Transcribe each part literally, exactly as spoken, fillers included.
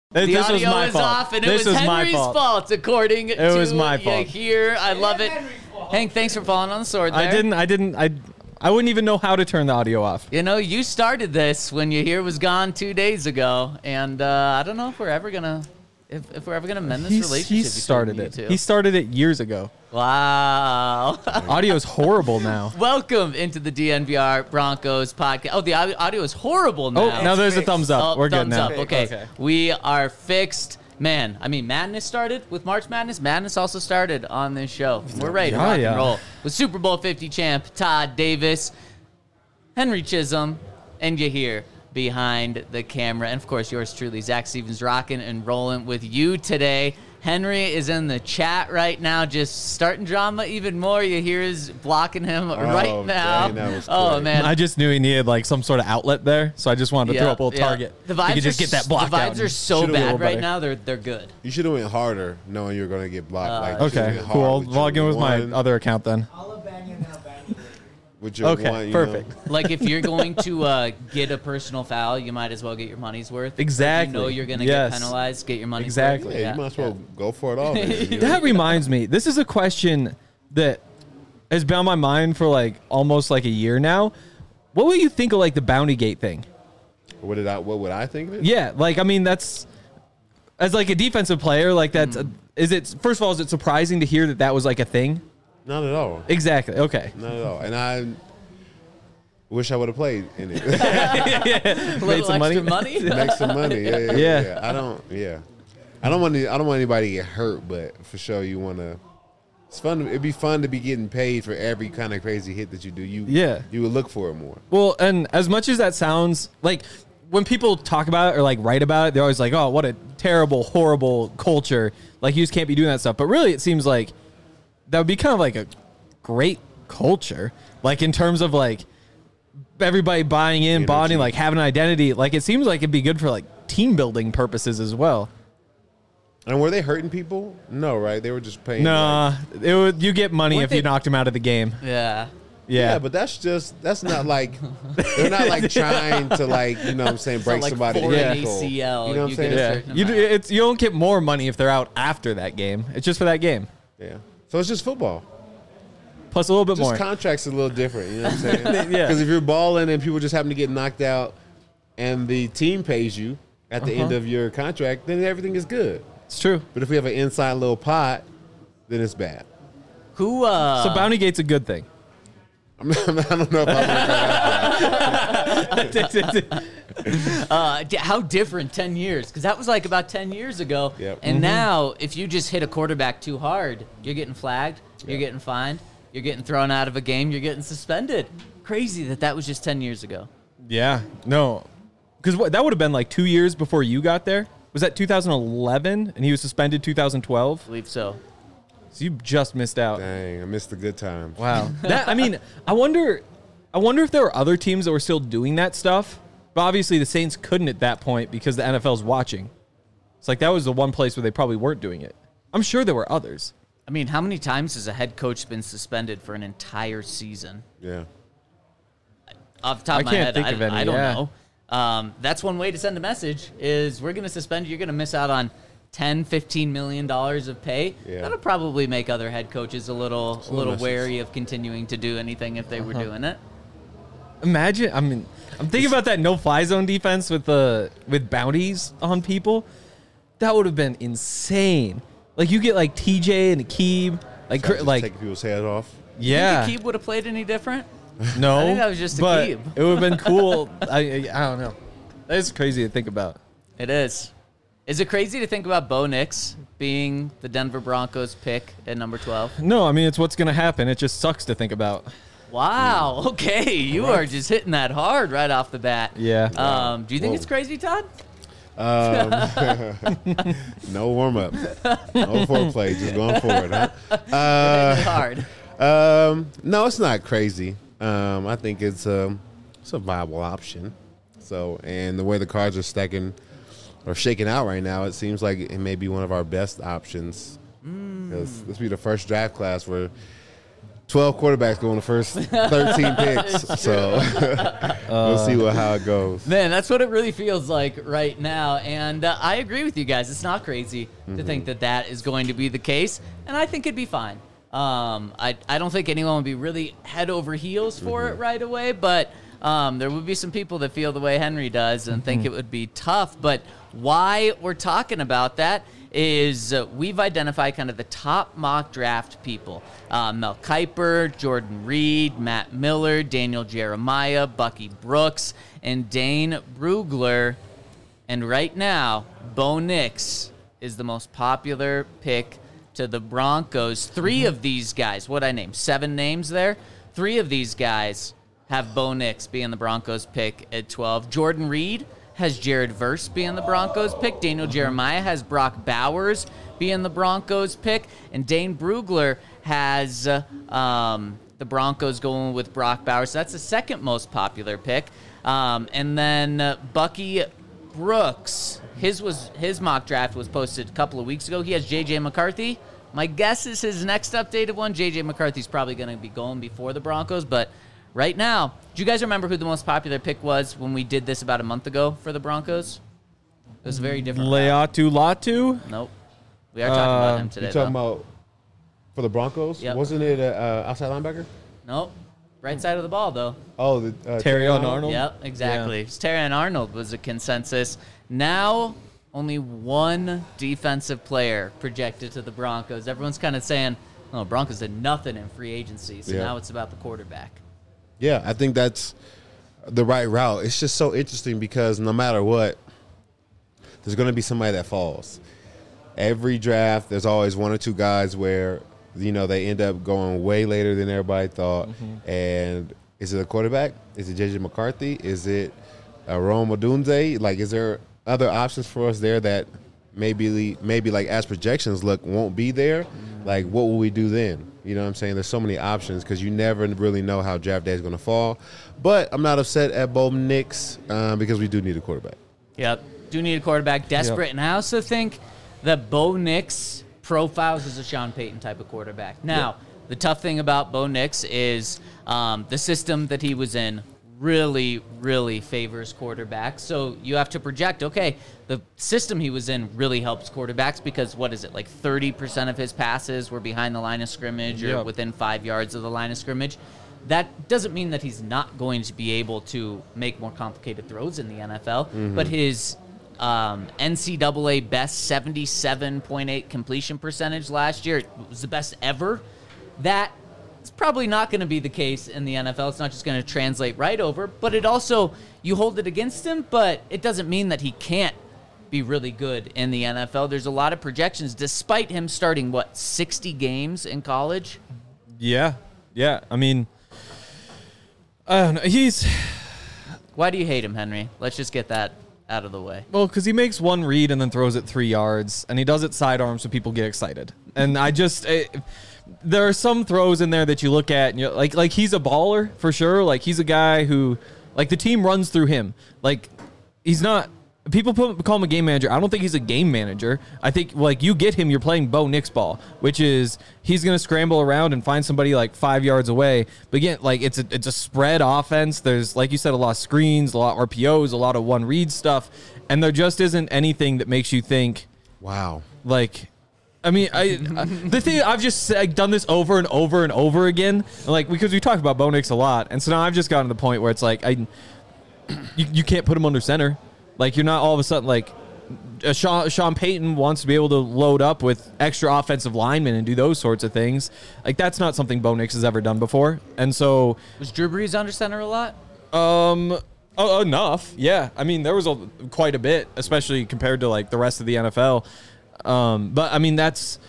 The this audio was my is fault. off, and this it was, was Henry's my fault. fault, according it to was my fault. here. I love it. Hank, thanks for falling on the sword there. I didn't. I didn't. I. I wouldn't even know how to turn the audio off. You know, you started this when your here was gone two days ago, and uh, I don't know if we're ever gonna, if, if we're ever gonna mend this He's, relationship. he between started you it. two. He started it years ago. Wow. Audio is horrible now. Welcome into the D N V R Broncos podcast. Oh, the audio audio is horrible now. Oh, now there's a thumbs up. Oh, We're thumbs good now. up. Okay. Okay. We are fixed. Man, I mean, Madness started with March Madness. Madness also started on this show. We're ready to Yeah, rock yeah. and roll with Super Bowl fifty champ Todd Davis, Henry Chisholm, and you here behind the camera. And, of course, yours truly, Zach Stevens, rocking and rolling with you today. Henry is in the chat right now, just starting drama even more. You hear is blocking him right now. Dang, that was oh, quick. man. I just knew he needed like some sort of outlet there, so I just wanted to Yeah, throw up a little yeah. target. The He vibes could just are, get that blocked The vibes out. are so Should've been a bad little right better. now. They're they're good. You should have went harder, knowing you were going to get blocked. Uh, like you should've Okay, went cool. hard I'll with log your in with my one- other account then. I'll abandon now, abandon. With your Okay, one, you perfect. know. Like if you're going to uh, get a personal foul, you might as well get your money's worth. Exactly. If you know you're going to Yes. get penalized, get your money's Exactly. worth. Yeah, you might as well go for it all. man, you know? That reminds me, this is a question that has been on my mind for like almost like a year now. What would you think of like the Bounty Gate thing? What did I? What would I think of it? Yeah, like I mean that's as like a defensive player, like that's Hmm. is it first of all is it surprising to hear that that was like a thing? Not at all. Exactly. Okay. Not at all. And I wish I would have played in it. A little some money? extra money. Make some money. Yeah, yeah, Yeah. yeah. I don't. Yeah. I don't want. To, I don't want anybody to get hurt, but for sure you want to. It's fun. It'd be fun to be getting paid for every kind of crazy hit that you do. You. Yeah. You would look for it more. Well, and as much as that sounds like when people talk about it or like write about it, they're always like, "Oh, what a terrible, horrible culture! Like you just can't be doing that stuff." But really, it seems like that would be kind of like a great culture, like in terms of like everybody buying in, Energy. bonding, like having an identity. Like it seems like it'd be good for like team building purposes as well. And were they hurting people? No, right? They were just paying. Nah, like- it would you get money Weren't if they- you knocked him out of the game. Yeah. Yeah, Yeah, but that's just that's not like they're not like trying to like you know what I'm saying break not like somebody's for an ankle. A C L, You know what you I'm saying? get a yeah. certain You do, amount. it's you don't get more money if they're out after that game. It's just for that game Yeah. So it's just football. plus a little bit Just more. contracts a little different. You know what I'm saying? Yeah. Because if you're balling and people just happen to get knocked out, and the team pays you at the Uh-huh. end of your contract, then everything is good. It's true. But if we have an inside little pot, then it's bad. Who? Uh, So Bounty Gate's a good thing. I'm not, I don't know if I'm. uh, d- how different ten years? Because that was like about ten years ago. Yep. And Mm-hmm. now, if you just hit a quarterback too hard, you're getting flagged. You're Yeah. getting fined. You're getting thrown out of a game. You're getting suspended. Crazy that that was just ten years ago. Yeah. No. Because that would have been like two years before you got there. Was that two thousand eleven and he was suspended two thousand twelve? I believe so. So you just missed out. Dang, I missed the good times. Wow. That I mean, I wonder I wonder if there were other teams that were still doing that stuff. But obviously the Saints couldn't at that point because the N F L's watching. It's like that was the one place where they probably weren't doing it. I'm sure there were others. I mean, how many times has a head coach been suspended for an entire season? Yeah. Off the top I of my can't head, think I, of any, I don't yeah. know. Um, that's one way to send a message is we're going to suspend you. You're going to miss out on ten, fifteen million dollars of pay. Yeah. That'll probably make other head coaches a little, a little little message. wary of continuing to do anything if they were Uh-huh. doing it. Imagine, I mean, I'm thinking about that no-fly zone defense with the with bounties on people. That would have been insane. Like you get like T J and Akeem, like cr- Just like taking people's head off. yeah, Think Akeem would have played any different? no, I think that was just but Akeem. it would have been cool. I I I don't know. That is crazy to think about. It is. Is it crazy to think about Bo Nix being the Denver Broncos pick at number twelve? No, I mean it's what's gonna happen. It just sucks to think about. Wow. Okay. You are just hitting that hard right off the bat. Yeah. Um, do you think Whoa. it's crazy, Todd? Um, no warm up, no foreplay, just going forward, huh? Uh, Hitting it hard. Um, no, it's not crazy. Um, I think it's um, it's a viable option. So, and the way the cards are stacking or shaking out right now, it seems like it may be one of our best options. 'Cause this will be the first draft class where twelve quarterbacks go in the first thirteen picks. So we'll see what, how it goes. Man, that's what it really feels like right now. And uh, I agree with you guys. It's not crazy Mm-hmm. to think that that is going to be the case. And I think it'd be fine. Um, I, I don't think anyone would be really head over heels for Mm-hmm. it right away. But um, there would be some people that feel the way Henry does and think it would be tough. But why we're talking about that is uh, we've identified kind of the top mock draft people. Uh, Mel Kiper, Jordan Reed, Matt Miller, Daniel Jeremiah, Bucky Brooks, and Dane Brugler. And right now, Bo Nix is the most popular pick to the Broncos. Three of these guys, what I named, seven names there, three of these guys have Bo Nix being the Broncos pick at twelve. Jordan Reed has Jared Verse being the Broncos pick. Daniel Jeremiah has Brock Bowers being the Broncos pick. And Dane Brugler has uh, um, the Broncos going with Brock Bowers. So that's the second most popular pick. Um, and then uh, Bucky Brooks, his was his mock draft was posted a couple of weeks ago. He has J J McCarthy. My guess is his next updated one. J J McCarthy's probably going to be going before the Broncos, but right now, do you guys remember who the most popular pick was when we did this about a month ago for the Broncos? It was a very different. Leatu Latu? Nope. We are talking about Uh, him today. You talking though. about for the Broncos? Yep. Wasn't it a uh, outside linebacker? Nope. Right side of the ball, though. Oh, the uh, Terry Arnold? Yep, exactly. Terran Arnold was a consensus. Now, only one defensive player projected to the Broncos. Everyone's kind of saying, oh, Broncos did nothing in free agency, so Yeah. now it's about the quarterback. Yeah, I think that's the right route. It's just so interesting because no matter what, there's going to be somebody that falls. Every draft, there's always one or two guys where, you know, they end up going way later than everybody thought. Mm-hmm. And is it a quarterback? Is it J J McCarthy? Is it uh, Rome Odunze? Like, is there other options for us there that maybe, maybe like as projections look, won't be there? Like, what will we do then? You know what I'm saying? There's so many options because you never really know how draft day is going to fall. But I'm not upset at Bo Nix um, because we do need a quarterback. Yep. Do need a quarterback, desperate. Yep. And I also think that Bo Nix profiles as a Sean Payton type of quarterback. Now, Yep. the tough thing about Bo Nix is um, the system that he was in really, really favors quarterbacks. So you have to project, okay, the system he was in really helps quarterbacks because what is it, like thirty percent of his passes were behind the line of scrimmage or Yep. within five yards of the line of scrimmage. That doesn't mean that he's not going to be able to make more complicated throws in the N F L, Mm-hmm. but his um, N C double A best seventy-seven point eight completion percentage last year, it was the best ever. That is probably not going to be the case in the N F L. It's not just going to translate right over, but it also, you hold it against him, but it doesn't mean that he can't be really good in the N F L. There's a lot of projections, despite him starting, what, sixty games in college? Yeah. Yeah. I mean, I don't know. He's, Why do you hate him, Henry? Let's just get that out of the way. well, because he makes one read and then throws it three yards, and he does it sidearm so people get excited. And I just, it, there are some throws in there that you look at and you're like, like he's a baller for sure. Like he's a guy who, like the team runs through him. Like he's not. People put, call him a game manager. I don't think he's a game manager. I think, like, you get him, you're playing Bo Nix ball, which is he's going to scramble around and find somebody, like, five yards away. But, again, like, it's a, it's a spread offense. There's, like you said, a lot of screens, a lot of R P Os, a lot of one-read stuff. And there just isn't anything that makes you think, Wow. like, I mean, I, I the thing, I've just like, done this over and over and over again, like, because we talk about Bo Nix a lot. And so now I've just gotten to the point where it's like, I, you, you can't put him under center. Like, you're not all of a sudden, like, uh, Sean, Sean Payton wants to be able to load up with extra offensive linemen and do those sorts of things. Like, that's not something Bo Nix has ever done before. And so... Was Drew Brees under center a lot? Um, oh, enough, yeah. I mean, there was a, quite a bit, especially compared to, like, the rest of the N F L. Um, but, I mean, that's...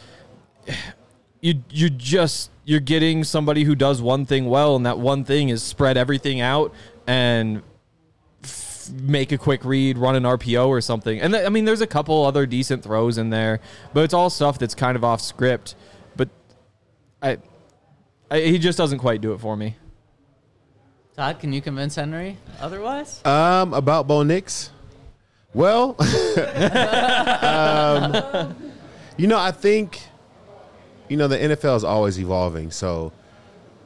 You, you just... You're getting somebody who does one thing well, and that one thing is spread everything out and... make a quick read, run an R P O or something. And th- I mean, there's a couple other decent throws in there, but it's all stuff that's kind of off script. But I, I he just doesn't quite do it for me. Todd, can you convince Henry otherwise? Um, about Bo Nix? Well, um, you know, I think, you know, the N F L is always evolving. So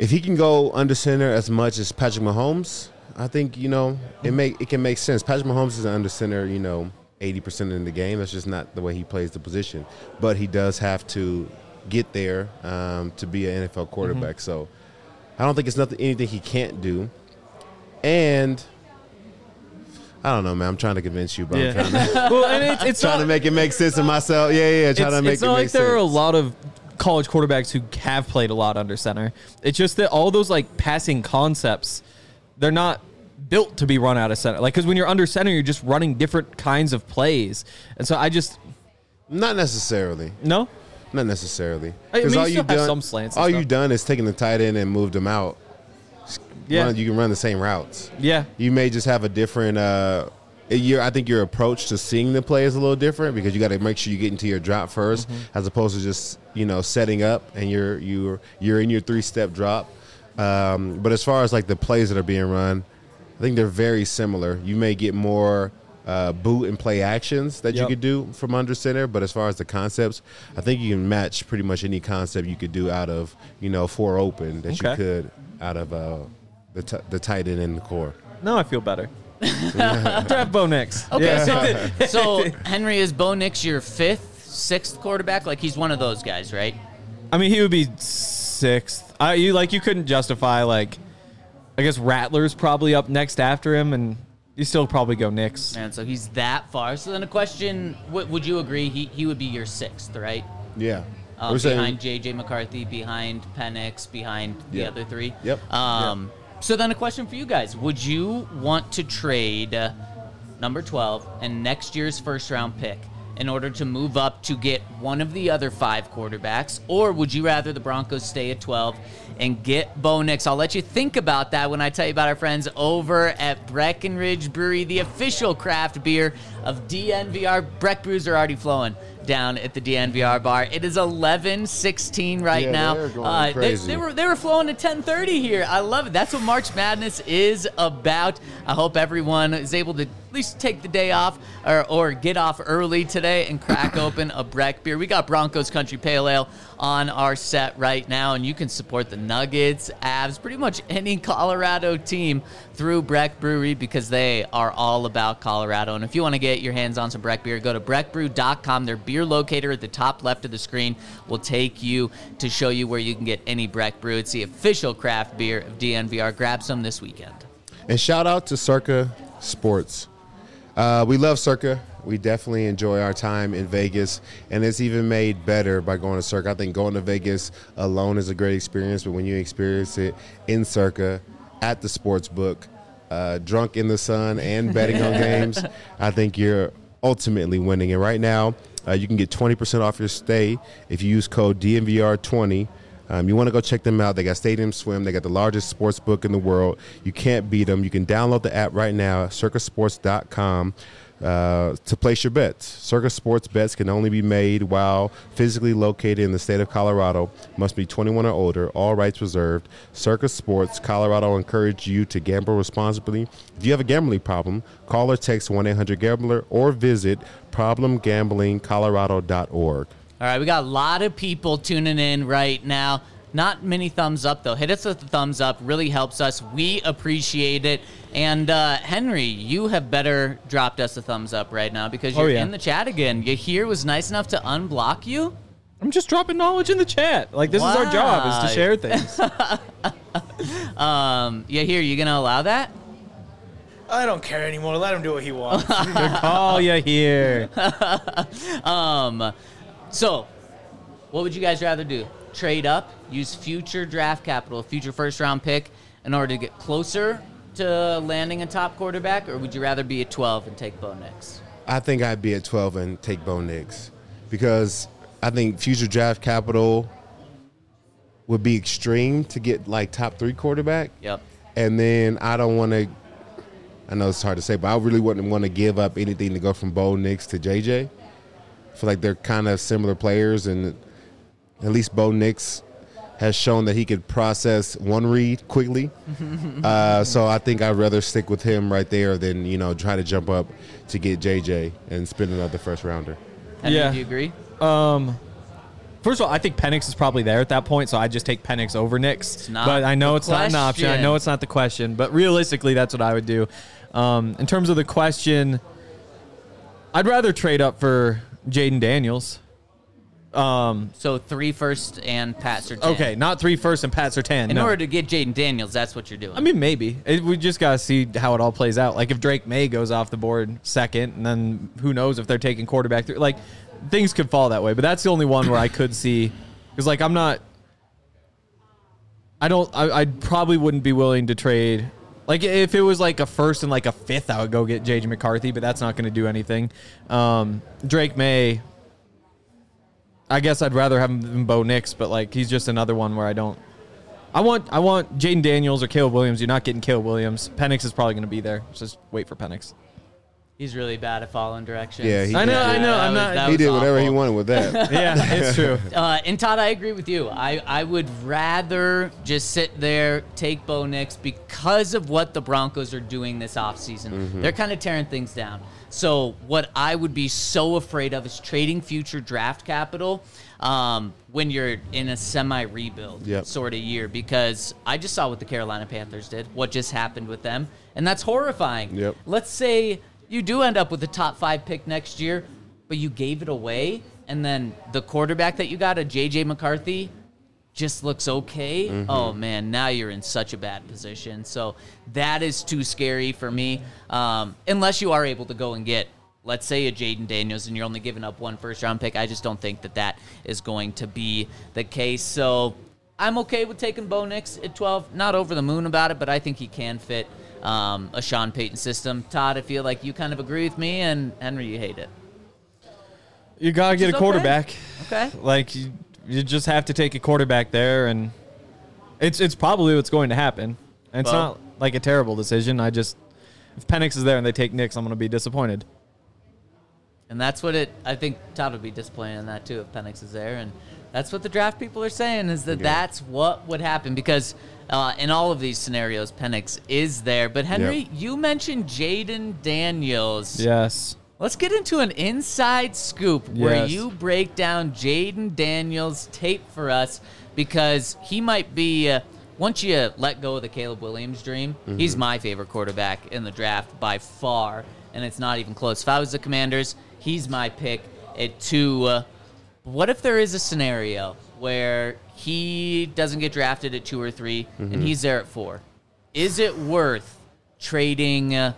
if he can go under center as much as Patrick Mahomes, I think, you know, it make it can make sense. Patrick Mahomes is an under center, you know, eighty percent in the game. That's just not the way he plays the position. But he does have to get there um, to be an N F L quarterback. Mm-hmm. So I don't think it's nothing anything he can't do. And I don't know, man. I'm trying to convince you, but Yeah. I'm trying to, Well, and it's, it's trying not, to make it make sense to myself. Yeah, yeah, trying it's, to make it's it not make like there sense. are a lot of college quarterbacks who have played a lot under center. It's just that all those like passing concepts, they're not built to be run out of center. Like, because when you're under center, you're just running different kinds of plays. And so I just Not necessarily. no. Not necessarily. I mean, Because you all still you've have done, some slants and all stuff. you've done is taken the tight end and moved them out. Yeah. Run- you can run the same routes. Yeah. You may just have a different. Uh, your, I think your approach to seeing the play is a little different because you got to make sure you get into your drop first, Mm-hmm. as opposed to just you know setting up and you're you're you're in your three step drop. Um, but as far as like the plays that are being run, I think they're very similar. You may get more uh, boot and play actions that you Yep. could do from under center, but as far as the concepts, I think you can match pretty much any concept you could do out of you know four open that Okay. you could out of uh, the t- the tight end in the core. No, I feel better. Draft Bo Nix. Okay, so so Henry, is Bo Nix your fifth, sixth quarterback? Like he's one of those guys, right? I mean, he would be sixth. I, you like you couldn't justify like, I guess Rattler's probably up next after him, and you still probably go Nix. And so he's that far. So then a question, w- would you agree he, he would be your sixth, right? Yeah. Um, We're saying- behind J J McCarthy, behind Penix, behind the Yeah. other three? Yep. Um, So then a question for you guys. Would you want to trade uh, number twelve and next year's first round pick in order to move up to get one of the other five quarterbacks? Or would you rather the Broncos stay at twelve and get Bo Nix? I'll let you think about that when I tell you about our friends over at Breckenridge Brewery, the official craft beer of D N V R. Breck brews are already flowing down at the D N V R bar. It is eleven sixteen right Yeah, now. they're going Uh, they, crazy. they were they were flowing at ten thirty here. I love it. That's what March Madness is about. I hope everyone is able to at least take the day off or, or get off early today and crack open a Breck beer. We got Broncos Country Pale Ale on our set right now, and you can support the Nuggets, Avs, pretty much any Colorado team through Breck Brewery because they are all about Colorado. And if you want to get your hands on some Breck beer, go to breck brew dot com. Their beer locator at the top left of the screen will take you to show you where you can get any Breck brew. It's the official craft beer of D N V R. Grab some this weekend. And shout out to Circa Sports. Uh, we love Circa. We definitely enjoy our time in Vegas, and it's even made better by going to Circa. I think going to Vegas alone is a great experience, but when you experience it in Circa, at the sports book, uh, drunk in the sun, and betting on games, I think you're ultimately winning. And right now, uh, you can get twenty percent off your stay if you use code D N V R twenty. Um, you want to go check them out. They got Stadium Swim. They got the largest sports book in the world. You can't beat them. You can download the app right now, circa sports dot com, uh, to place your bets. Circa Sports bets can only be made while physically located in the state of Colorado. Must be twenty-one or older. All rights reserved. Circa Sports Colorado encourage you to gamble responsibly. If you have a gambling problem, call or text one eight hundred gambler or visit problem gambling colorado dot org. All right, we got a lot of people tuning in right now. Not many thumbs up, though. Hit us with the thumbs up. Really helps us. We appreciate it. And, uh, Henry, you have better dropped us a thumbs up right now because you're Oh, yeah. in the chat again. Yahir was nice enough to unblock you. I'm just dropping knowledge in the chat. Like, this is our job, is Wow. to share things. Um, Yahir, you going to allow that? I don't care anymore. Let him do what he wants. Oh, you here. Um, so, what would you guys rather do? Trade up, use future draft capital, future first round pick in order to get closer to landing a top quarterback, or would you rather be at twelve and take Bo Nix? I think I'd be at twelve and take Bo Nix because I think future draft capital would be extreme to get like top three quarterback. Yep. And then I don't want to, I know it's hard to say, but I really wouldn't want to give up anything to go from Bo Nix to J J. I feel like they're kind of similar players, and at least Bo Nix has shown that he could process one read quickly. uh, so I think I'd rather stick with him right there than, you know, try to jump up to get J J and spend another first rounder. Henry, Yeah. do you agree? Um, First of all, I think Penix is probably there at that point, so I just take Penix over Nix. It's not but I know the it's not an option. I question. know it's not the question, but realistically, that's what I would do. Um, in terms of the question, I'd rather trade up for Jaden Daniels. Um, So three first and Pat Surtain. okay, not three first and Pat Surtain. In no. order to get Jaden Daniels, that's what you're doing. I mean, maybe. It, we just got to see how it all plays out. Like, if Drake May goes off the board second, and then who knows if they're taking quarterback through. Like, things could fall that way. But that's the only one where I could see. Because, like, I'm not. I don't. I, I probably wouldn't be willing to trade. Like, if it was like a first and like a fifth, I would go get J J McCarthy, but that's not going to do anything. Um, Drake May. I guess I'd rather have him than Bo Nix, but like he's just another one where I don't. I want I want Jaden Daniels or Caleb Williams. You're not getting Caleb Williams. Penix is probably going to be there. Just wait for Penix. He's really bad at following directions. Yeah, he I know, did. I know. That I'm was- not. that He was did whatever he awful. wanted with that. Yeah, it's true. Uh, and Todd, I agree with you. I, I would rather just sit there, take Bo Nix because of what the Broncos are doing this offseason. Mm-hmm. They're kind of tearing things down. So what I would be so afraid of is trading future draft capital um, when you're in a semi-rebuild Yep. sort of year, because I just saw what the Carolina Panthers did, what just happened with them, and that's horrifying. Yep. Let's say you do end up with a top five pick next year, but you gave it away, and then the quarterback that you got, a J J McCarthy, just looks okay. Mm-hmm. Oh, man, now you're in such a bad position. So that is too scary for me, um, unless you are able to go and get, let's say, a Jaden Daniels, and you're only giving up one first-round pick. I just don't think that that is going to be the case. So I'm okay with taking Bo Nix at twelve. Not over the moon about it, but I think he can fit um, a Sean Payton system. Todd, I feel like you kind of agree with me, and Henry, you hate it. You gotta get is a okay. quarterback. Okay. Like you, you just have to take a quarterback there, and it's it's probably what's going to happen. And it's Well- not like a terrible decision. I just if Penix is there and they take Nix, I'm gonna be disappointed. And that's what it, I think Todd would be disappointed in that too if Penix is there. And that's what the draft people are saying is that Yeah. that's what would happen because uh, in all of these scenarios, Penix is there. But Henry, Yep. you mentioned Jaden Daniels. Yes. Let's get into an inside scoop where Yes. you break down Jaden Daniels' tape for us because he might be, uh, once you let go of the Caleb Williams dream, he's my favorite quarterback in the draft by far, and it's not even close. If I was the Commanders, he's my pick at two. Uh, what if there is a scenario where he doesn't get drafted at two or three and he's there at four? Is it worth trading uh,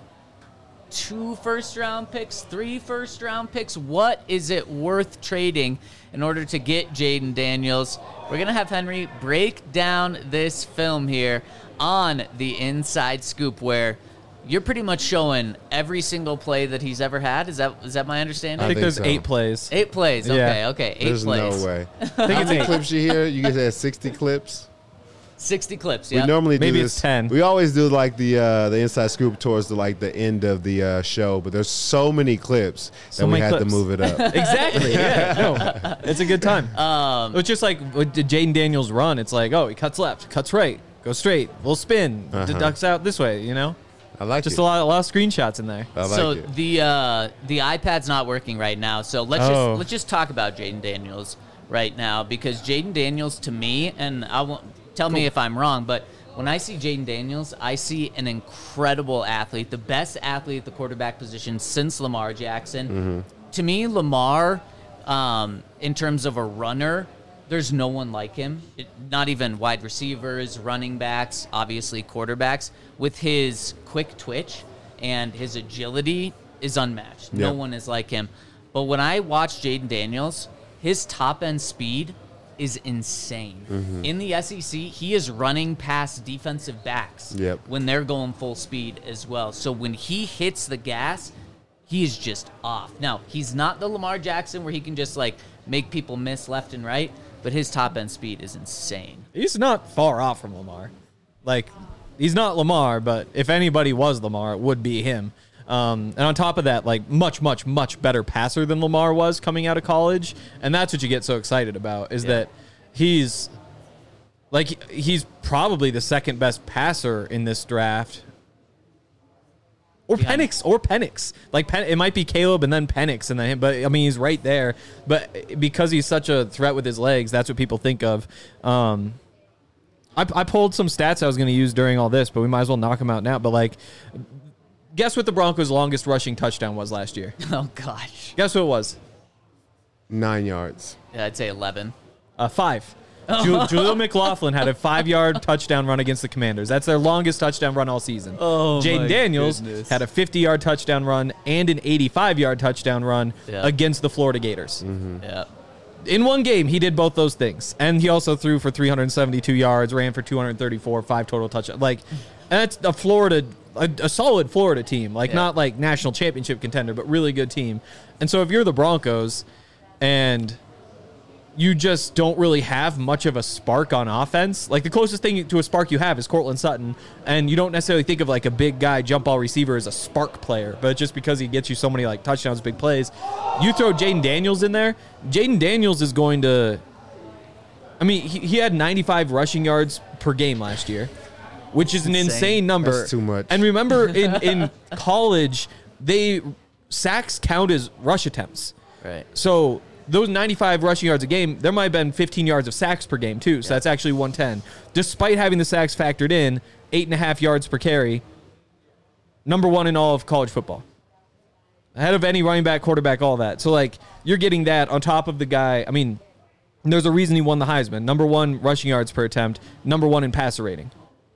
two first-round picks, three first-round picks? What is it worth trading in order to get Jaden Daniels? We're going to have Henry break down this film here on the Inside Scoop where you're pretty much showing every single play that he's ever had. Is that is that my understanding? I think think there's so. eight plays. Eight plays. Okay, Yeah. okay. Eight There's plays. no way. I think How it's many eight. clips you hear? You guys had sixty clips. sixty clips, We yeah. normally do Maybe this. it's ten. We always do like the uh, the inside scoop towards the like the end of the uh, show, but there's so many clips So that we many had to clips. move it up. Exactly. Yeah. No, it's a good time. Um, It's just like with the Jaden Daniels run. It's like, oh, he cuts left, cuts right, goes straight, little spin, Uh-huh. deducts out this way. You know, I like just it. a lot, a lot of screenshots in there. I like so it. the uh, the iPad's not working right now. So let's Oh. just let's just talk about Jaden Daniels right now because Jaden Daniels to me, and I won't tell me if I'm wrong, but when I see Jaden Daniels, I see an incredible athlete, the best athlete at the quarterback position since Lamar Jackson. Mm-hmm. To me, Lamar, um, in terms of a runner, there's no one like him. It, not even wide receivers, running backs, obviously quarterbacks. With his quick twitch and his agility is unmatched. No Yep. one is like him. But when I watch Jaden Daniels, his top end speed is insane. Mm-hmm. In the S E C, he is running past defensive backs Yep. when they're going full speed as well. So when he hits the gas, he is just off. Now, he's not the Lamar Jackson where he can just like make people miss left and right, but his top end speed is insane. He's not far off from Lamar. Like, he's not Lamar, but if anybody was Lamar, it would be him. Um, and on top of that, like, much, much, much better passer than Lamar was coming out of college. And that's what you get so excited about, is Yeah. that he's, like, he's probably the second best passer in this draft. Or behind- Penix, or Penix. Like Pen, it might be Caleb and then Penix, and then him. But I mean, he's right there. But because he's such a threat with his legs, that's what people think of. Um, I, I pulled some stats I was going to use during all this, but we might as well knock them out now. But like, guess what the Broncos' longest rushing touchdown was last year? Oh gosh. Guess what it was? Nine yards. Yeah, I'd say eleven. Uh, five. Ju- Julio McLaughlin had a five-yard touchdown run against the Commanders. That's their longest touchdown run all season. Oh, Jaden my Daniels goodness. had a fifty-yard touchdown run and an eighty-five-yard touchdown run Yeah. against the Florida Gators. Yeah. In one game, he did both those things, and he also threw for three hundred seventy-two yards, ran for two hundred thirty-four, five total touchdowns. Like, that's a Florida, a, a solid Florida team. Like, Yeah. not like national championship contender, but really good team. And so, if you're the Broncos, and you just don't really have much of a spark on offense. Like, the closest thing to a spark you have is Cortland Sutton, and you don't necessarily think of, like, a big guy jump ball receiver as a spark player, but just because he gets you so many, like, touchdowns, big plays. You throw Jaden Daniels in there, Jaden Daniels is going to – I mean, he, he had ninety-five rushing yards per game last year, which is an Insane. insane number. That's too much. And remember, in, in college, they sacks count as rush attempts. Right. So those ninety-five rushing yards a game, there might have been fifteen yards of sacks per game, too. So Yeah. that's actually one ten. Despite having the sacks factored in, eight and a half yards per carry, number one in all of college football. Ahead of any running back, quarterback, all that. So, like, you're getting that on top of the guy. I mean, there's a reason he won the Heisman. Number one rushing yards per attempt, number one in passer rating.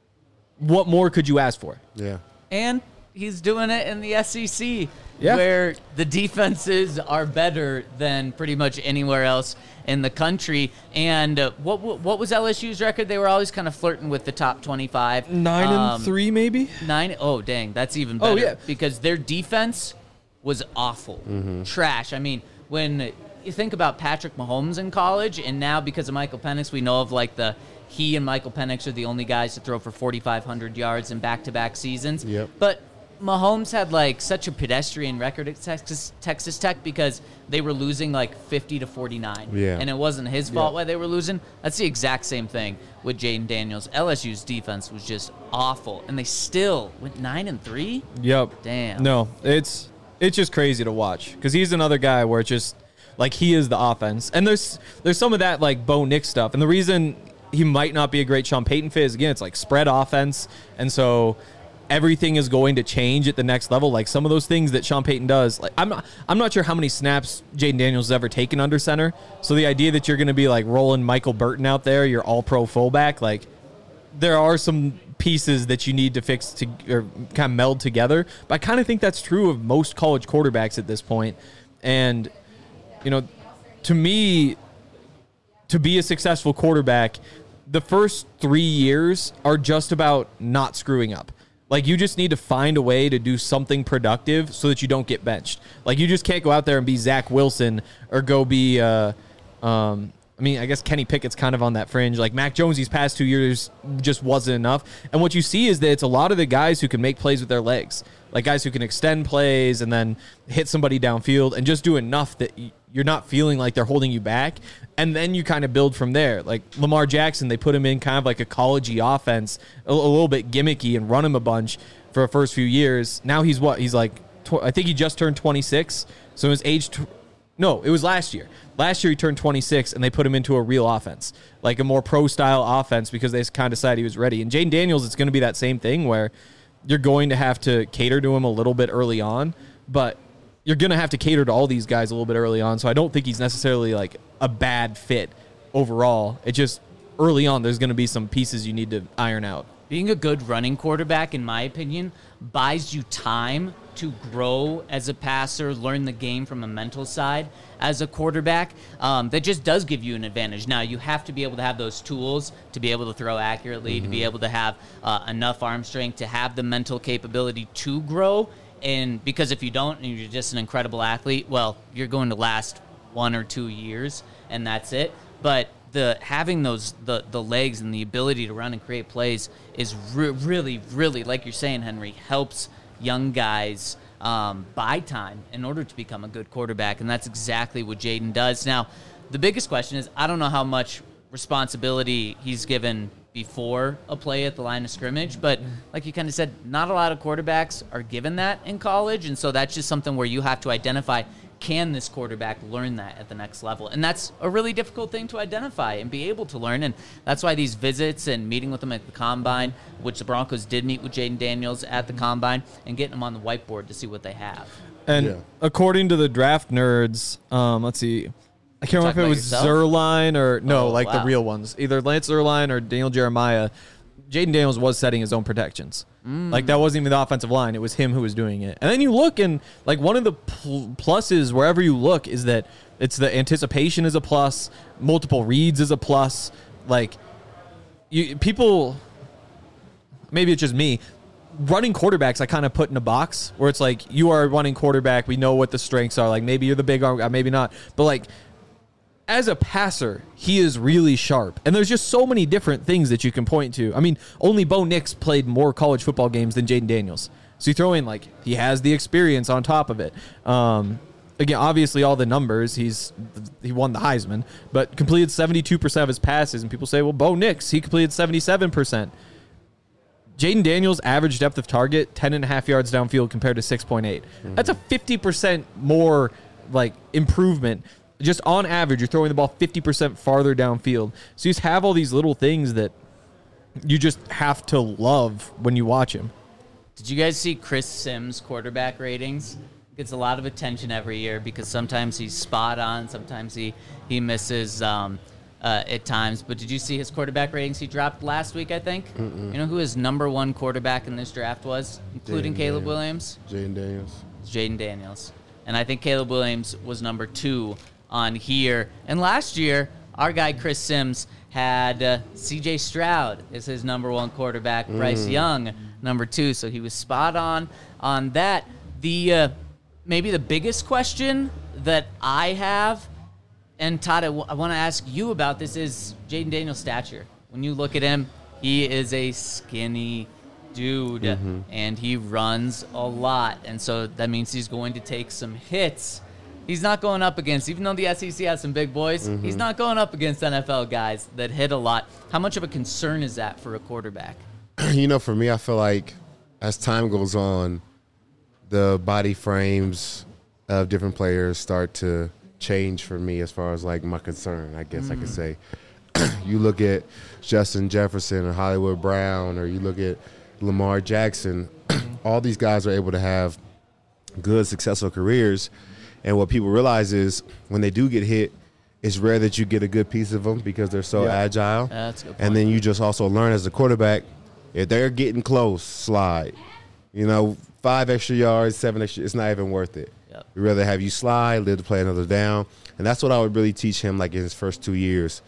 What more could you ask for? Yeah. And he's doing it in the S E C, Yeah. where the defenses are better than pretty much anywhere else in the country. And uh, what what was L S U's record? They were always kind of flirting with the top twenty-five. Nine Um, and three, maybe? Nine. Oh, dang, that's even Oh, better. yeah. Because their defense was awful, trash. I mean, when you think about Patrick Mahomes in college, and now because of Michael Penix, we know of like the he and Michael Penix are the only guys to throw for forty-five hundred yards in back-to-back seasons. Yep. But Mahomes had like such a pedestrian record at Texas Texas Tech because they were losing like fifty to forty-nine. Yeah. And it wasn't his fault why they were losing. That's the exact same thing with Jaden Daniels. L S U's defense was just awful, and they still went nine and three. Yep. Damn. No, it's it's just crazy to watch because he's another guy where it's just like he is the offense, and there's there's some of that like Bo Nick stuff, and the reason he might not be a great Sean Payton fit is again it's like spread offense, and so everything is going to change at the next level. Like some of those things that Sean Payton does, like I'm not I'm not sure how many snaps Jaden Daniels has ever taken under center. So the idea that you're going to be like rolling Michael Burton out there, your all pro fullback, like there are some pieces that you need to fix to or kind of meld together. But I kind of think that's true of most college quarterbacks at this point. And, you know, to me, to be a successful quarterback, the first three years are just about not screwing up. Like, you just need to find a way to do something productive so that you don't get benched. Like, you just can't go out there and be Zach Wilson or go be, uh, um, I mean, I guess Kenny Pickett's kind of on that fringe. Like, Mac Jones these past two years just wasn't enough. And what you see is that it's a lot of the guys who can make plays with their legs. Like, guys who can extend plays and then hit somebody downfield and just do enough that you're not feeling like they're holding you back. And then you kind of build from there. Like Lamar Jackson, they put him in kind of like a college-y offense, a, a little bit gimmicky, and run him a bunch for the first few years. Now he's what? He's like, tw- I think he just turned twenty-six. So his age, tw- no, it was last year. Last year he turned twenty-six, and they put him into a real offense, like a more pro-style offense because they kind of decided he was ready. And Jaden Daniels, it's going to be that same thing where you're going to have to cater to him a little bit early on, but you're going to have to cater to all these guys a little bit early on. So I don't think he's necessarily like a bad fit overall. It just early on, there's going to be some pieces you need to iron out. Being a good running quarterback, in my opinion, buys you time to grow as a passer, learn the game from a mental side as a quarterback. Um, that just does give you an advantage. Now, you have to be able to have those tools to be able to throw accurately, mm-hmm. to be able to have uh, enough arm strength, to have the mental capability to grow. And because if you don't, and you're just an incredible athlete, well, you're going to last one or two years, and that's it. But the having those the the legs and the ability to run and create plays is re- really, really, like you're saying, Henry, helps young guys um, buy time in order to become a good quarterback, and that's exactly what Jaden does. Now, the biggest question is, I don't know how much responsibility he's given before a play at the line of scrimmage. But like you kind of said, not a lot of quarterbacks are given that in college. And so that's just something where you have to identify, can this quarterback learn that at the next level? And that's a really difficult thing to identify and be able to learn. And that's why these visits and meeting with them at the Combine, which the Broncos did meet with Jaden Daniels at the Combine, and getting them on the whiteboard to see what they have. And Yeah. according to the draft nerds, um, let's see. I can't remember if it about was yourself? Zerline or no, Oh, like the wow. real ones. Either Lance Zerline or Daniel Jeremiah. Jaden Daniels was setting his own protections. Mm. Like that wasn't even the offensive line. It was him who was doing it. And then you look and like one of the pl- pluses wherever you look is that it's the anticipation is a plus. Multiple reads is a plus. Like you people, maybe it's just me. Running quarterbacks, I kind of put in a box where it's like you are a running quarterback. We know what the strengths are. Like maybe you're the big arm guy, maybe not. But like as a passer, he is really sharp. And there's just so many different things that you can point to. I mean, only Bo Nix played more college football games than Jaden Daniels. So you throw in like he has the experience on top of it. Um, again, obviously all the numbers. He's he won the Heisman, but completed seventy-two percent of his passes. And people say, well, Bo Nix, he completed seventy-seven percent. Jaden Daniels' average depth of target, ten and a half yards downfield compared to six point eight. Mm-hmm. That's a fifty percent more like improvement. Just on average, you're throwing the ball fifty percent farther downfield. So you just have all these little things that you just have to love when you watch him. Did you guys see Chris Sims' quarterback ratings? Gets a lot of attention every year because sometimes he's spot on, sometimes he, he misses um, uh, at times. But did you see his quarterback ratings he dropped last week, I think? Mm-mm. You know who his number one quarterback in this draft was, including Jaden Caleb Daniels. Williams? Jaden Daniels. It's Jaden Daniels. And I think Caleb Williams was number two on here. And last year, our guy Chris Sims had uh, C J Stroud as his number one quarterback, Bryce Young number two. So he was spot on on that. The uh, maybe the biggest question that I have, and Todd, I, w- I want to ask you about this, is Jaden Daniels' stature. When you look at him, he is a skinny dude, mm-hmm. and he runs a lot, and so that means he's going to take some hits. He's not going up against, even though the S E C has some big boys, mm-hmm. he's not going up against N F L guys that hit a lot. How much of a concern is that for a quarterback? You know, for me, I feel like as time goes on, the body frames of different players start to change for me as far as like my concern, I guess mm. I could say. You look at Justin Jefferson or Hollywood Brown, or you look at Lamar Jackson, all these guys are able to have good, successful careers. And what people realize is when they do get hit, it's rare that you get a good piece of them because they're so yeah. agile. Yeah, that's a good point. And then you just also learn as a quarterback, if they're getting close, slide. You know, five extra yards, seven extra, it's not even worth it. Yep. We'd rather have you slide, live to play another down. And that's what I would really teach him, like in his first two years.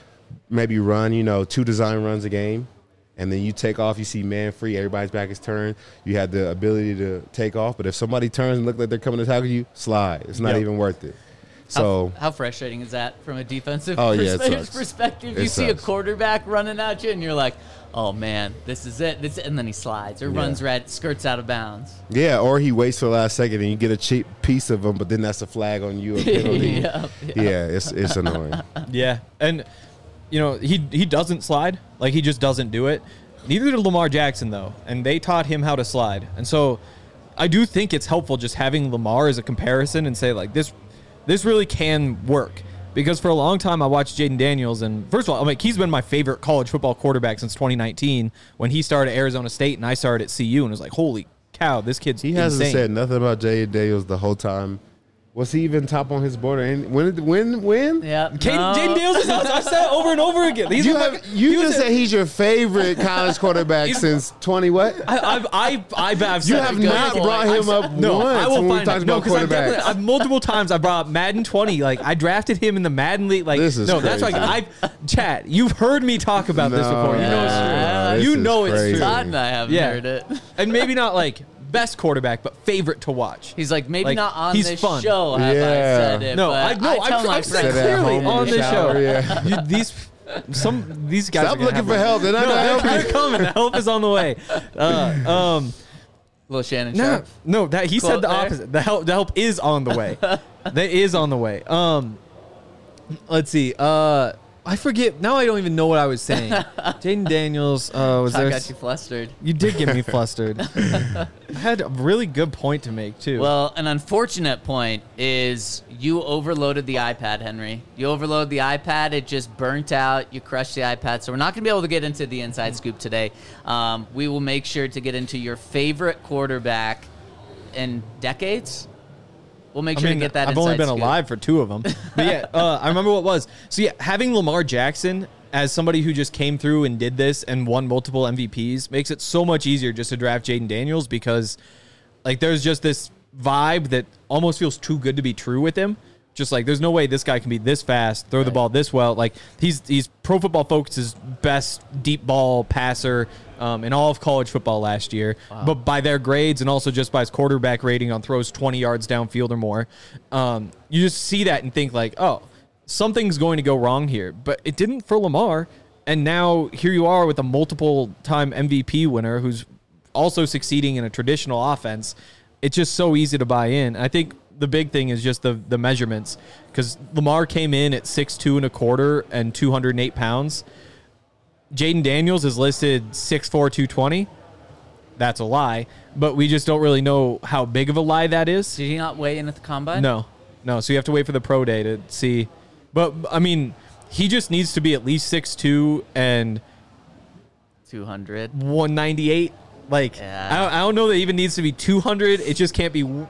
Maybe run, you know, two design runs a game. And then you take off, you see man free, everybody's back is turned. You have the ability to take off. But if somebody turns and look like they're coming to tackle you, slide. It's not Yep. even worth it. So how, how frustrating is that from a defensive Oh, yeah, it perspe- sucks. perspective? It You see a sucks. quarterback running at you, and you're like, "Oh man, this is it." This, and then he slides or Yeah. runs red, skirts out of bounds. yeah, or he waits for the last second and you get a cheap piece of him, but then that's a flag on you, a penalty. yeah, yeah. Yeah, it's it's annoying. Yeah, and you know he he doesn't slide, like he just doesn't do it. Neither did Lamar Jackson though, and they taught him how to slide. And so, I do think it's helpful just having Lamar as a comparison and say like this, this really can work. Because for a long time I watched Jaden Daniels, and first of all, I mean he's been my favorite college football quarterback since twenty nineteen when he started at Arizona State and I started at C U, and it was like, holy cow, this kid's He hasn't insane. said nothing about Jaden Daniels the whole time. Was he even top on his board? And when? When? When? Yeah, Jaden no. Jaden Daniels is I said it over and over again. These You are my- have you he was just a- said he's your favorite college quarterback He's- since twenty what? I, I've, I, I've, I've You said have it. not point. brought him I've- up no, once I will when we find talked it. No, about because I've, definitely- quarterbacks. I've multiple times I brought up Madden twenty. Like I drafted him in the Madden league. Like This is no, that's like crazy. I've chat. You've heard me talk about this No, before. You know it's yeah, true. this You is know it's crazy. true. Todd and I haven't Yeah. heard it. And maybe not like best quarterback, but favorite to watch. He's like, maybe Like, not on he's this fun. show have I Yeah. said it. No, but I no, I tell I've, my I've said friends Sit at clearly home in on the this shower, show. yeah. You, these some these guys Stop are gonna looking have for my- help. They're not No, gonna they're, help you. they're coming. The help is on the way. Uh, um. Little Shannon No, Sharp. no, that he Quote said the there. opposite. The help, the help is on the way. That is on the way. Um, let's see. Uh, I forget. Now I don't even know what I was saying. Jaden Daniels. Uh, was I there? got you flustered. You did get me flustered. I had a really good point to make, too. Well, an unfortunate point is you overloaded the iPad, Henry. You overloaded the iPad. It just burnt out. You crushed the iPad. So we're not going to be able to get into the inside scoop today. Um, we will make sure to get into your favorite quarterback in decades. We'll make sure I mean, to get that I've inside only been scoop. alive for two of them. But yeah, uh, I remember what it was. So yeah, having Lamar Jackson as somebody who just came through and did this and won multiple M V Ps makes it so much easier just to draft Jaden Daniels because like there's just this vibe that almost feels too good to be true with him. Just like there's no way this guy can be this fast, throw right. the ball this well. Like he's he's Pro Football Focus's best deep ball passer um, in all of college football last year. Wow. But by their grades and also just by his quarterback rating on throws twenty yards downfield or more, um, you just see that and think like, oh, something's going to go wrong here. But it didn't for Lamar. And now here you are with a multiple-time M V P winner who's also succeeding in a traditional offense. It's just so easy to buy in. I think the big thing is just the the measurements because Lamar came in at six two and a quarter and two hundred eight pounds. Jaden Daniels is listed six four, two twenty. That's a lie, but we just don't really know how big of a lie that is. Did he not weigh in at the combine? No, no. So you have to wait for the pro day to see. But I mean, he just needs to be at least six two and two hundred, one ninety-eight. Like yeah. I, don't, I don't know that it even needs to be two hundred. It just can't be. You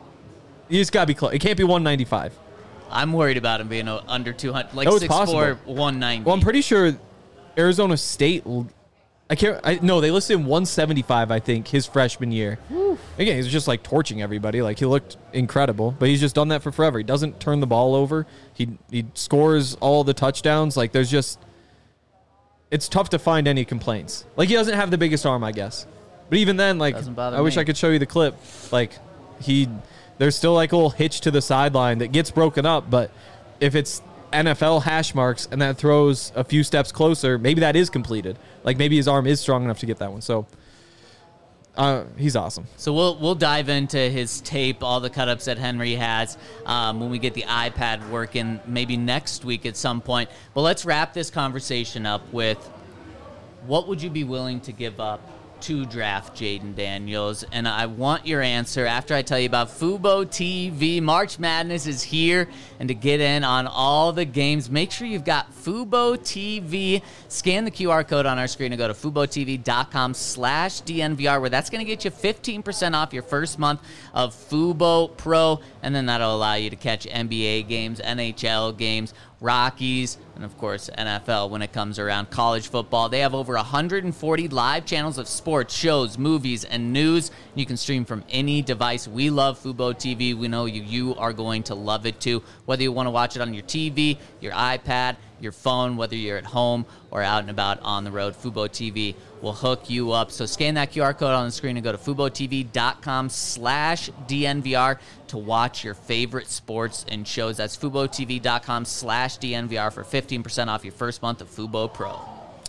just gotta be close. It can't be one ninety-five. I'm worried about him being under two hundred, like Oh, it's six four, possible. one ninety. Well, I'm pretty sure Arizona State. I can't. I, no, they listed him one seventy-five. I think his freshman year. Woo. Again, he's just like torching everybody. Like he looked incredible, but he's just done that for forever. He doesn't turn the ball over. He he scores all the touchdowns. Like there's just. It's tough to find any complaints. Like he doesn't have the biggest arm, I guess. But even then, like I wish me. I could show you the clip. Like he, there's still like a little hitch to the sideline that gets broken up. But if it's N F L hash marks and that throws a few steps closer, maybe that is completed. Like maybe his arm is strong enough to get that one. So uh, he's awesome. So we'll we'll dive into his tape, all the cut-ups that Henry has um, when we get the iPad working, maybe next week at some point. But let's wrap this conversation up with what would you be willing to give up to draft Jaden Daniels? And I want your answer after I tell you about Fubo T V. March Madness is here, and to get in on all the games, make sure you've got Fubo T V. Scan the Q R code on our screen and go to FuboTV.com slash DNVR, where that's going to get you fifteen percent off your first month of Fubo Pro, and then that'll allow you to catch N B A games, N H L games, Rockies, and of course N F L when it comes around. College football, they have over one hundred forty live channels of sports, shows, movies, and news. You can stream from any device. We love Fubo T V. We know you you are going to love it too. Whether you want to watch it on your T V, your iPad, your phone, whether you're at home or out and about on the road, Fubo T V will hook you up. So scan that Q R code on the screen and go to FuboTV.com slash DNVR to watch your favorite sports and shows. That's FuboTV.com slash DNVR for fifteen percent off your first month of Fubo Pro.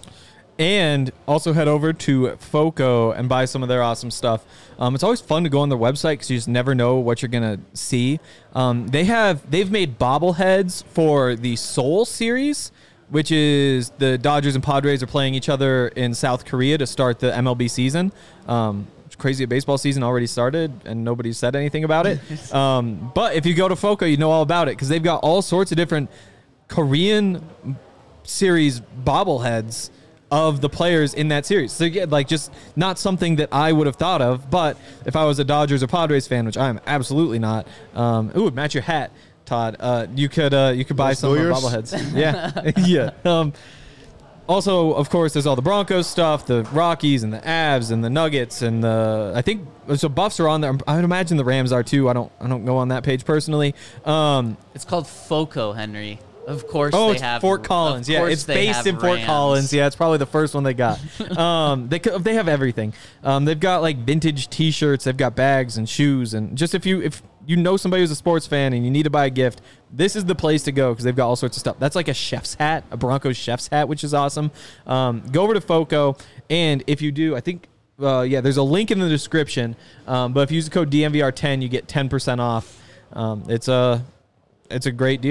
And also head over to Foco and buy some of their awesome stuff. Um, it's always fun to go on their website because you just never know what you're gonna see. Um, they have they've made bobbleheads for the Seoul series, which is the Dodgers and Padres are playing each other in South Korea to start the M L B season. Um, it's crazy, a baseball season already started and nobody said anything about it. um, but if you go to Foco, you know all about it because they've got all sorts of different Korean series bobbleheads of the players in that series. So again, like just not something that I would have thought of, but if I was a Dodgers or Padres fan, which I am absolutely not, um, ooh, match your hat, Todd. Uh, you could uh, you could buy some of the bobbleheads. Yeah, yeah. Um, also, of course, there's all the Broncos stuff, the Rockies and the Avs and the Nuggets and the I think so Buffs are on there. I would imagine the Rams are too. I don't I don't go on that page personally. Um, It's called Foco, Henry. Of course oh, they it's have Fort Collins. Yeah, it's based in Fort Rams. Collins. Yeah, it's probably the first one they got. um, they they have everything. Um, they've got like vintage T-shirts. They've got bags and shoes and just if you if you know somebody who's a sports fan and you need to buy a gift, this is the place to go because they've got all sorts of stuff. That's like a chef's hat, a Broncos chef's hat, which is awesome. Um, go over to Foco, and if you do, I think. Uh, yeah, there's a link in the description. Um, but if you use the code D N V R ten, you get ten percent off. Um, it's a it's a great deal.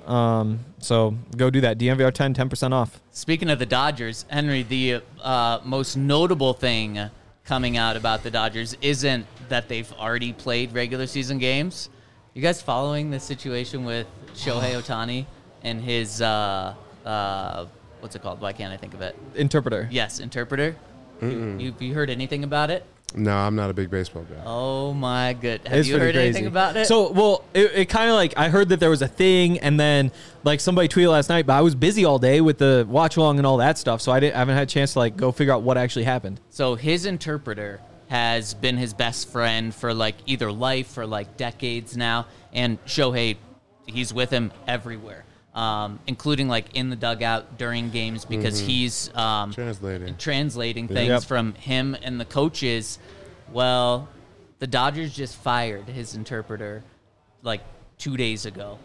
Um, so go do that. D N V R ten, ten percent off. Speaking of the Dodgers, Henry, the uh, most notable thing coming out about the Dodgers isn't that they've already played regular season games. You guys following the situation with Shohei Ohtani and his, uh, uh, what's it called? Why can't I think of it? Interpreter. Yes, interpreter. You, you, you heard anything about it? No, I'm not a big baseball guy. Oh my good. Have It's you pretty heard crazy. anything about it? So, well, it, it kind of like, I heard that there was a thing, and then like somebody tweeted last night, but I was busy all day with the watch along and all that stuff, so I didn't I haven't had a chance to like go figure out what actually happened. So his interpreter has been his best friend for like either life or like decades now, and Shohei, he's with him everywhere, um, including like in the dugout during games because Mm-hmm. he's um, Translating. translating things Yep. from him and the coaches. Well, the Dodgers just fired his interpreter like two days ago